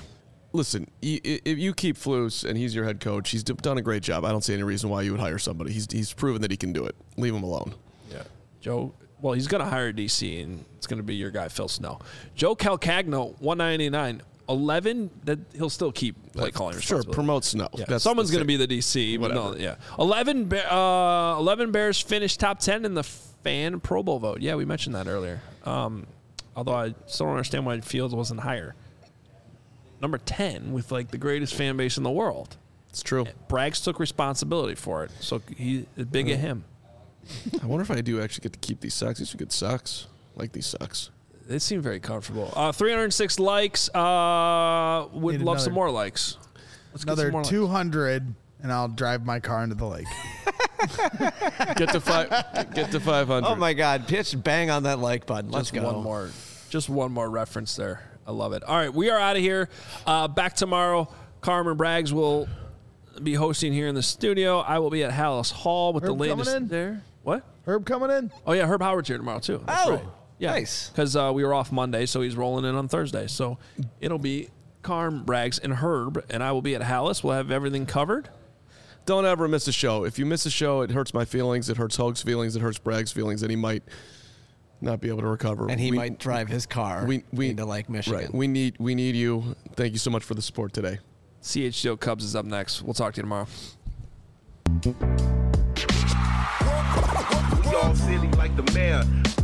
C: listen, if you keep Flus and he's your head coach, he's done a great job. I don't see any reason why you would hire somebody. He's proven that he can do it. Leave him alone.
A: Yeah. Joe, well, he's going to hire DC, and it's going to be your guy, Phil Snow. Joe Calcagno, 199. 11, that he'll still keep play calling responsibility.
C: Sure, promote Snow.
A: Yeah. Someone's going to be the DC. But no, yeah. 11 Bears finished top 10 in the fan Pro Bowl vote. Yeah, we mentioned that earlier. Although I still don't understand why Fields wasn't higher. Number 10 with like the greatest fan base in the world.
C: It's true.
A: Braggs took responsibility for it, so big at him.
C: I wonder if I do actually get to keep these socks. These are good socks. I like these socks.
A: They seem very comfortable. 306 likes. Would love some more likes. Let's
D: another
A: get some more
D: 200, and I'll drive my car into the lake.
C: Get to 500.
B: Oh my God! Pitch bang on that like button. Let's
A: Just
B: go.
A: Just one more reference there. I love it. All right, we are out of here. Back tomorrow. Carmen Braggs will be hosting here in the studio. I will be at Hallis Hall with
D: Herb
A: the latest
D: coming in?
A: there. What?
D: Herb coming in?
A: Oh yeah, Herb Howard's here tomorrow too. That's
B: Oh,
A: right. Yeah,
B: nice.
A: Because we were off Monday, so he's rolling in on Thursday. So it'll be Carm, Braggs, and Herb, and I will be at Hallis. We'll have everything covered.
C: Don't ever miss a show. If you miss a show, it hurts my feelings. It hurts Hoag's feelings. It hurts Bragg's feelings, and he might not be able to recover.
B: And he might drive his car into Lake Michigan.
C: Right. We need you. Thank you so much for the support today.
A: CHGO Cubs is up next. We'll talk to you tomorrow.
G: We all silly like the mayor.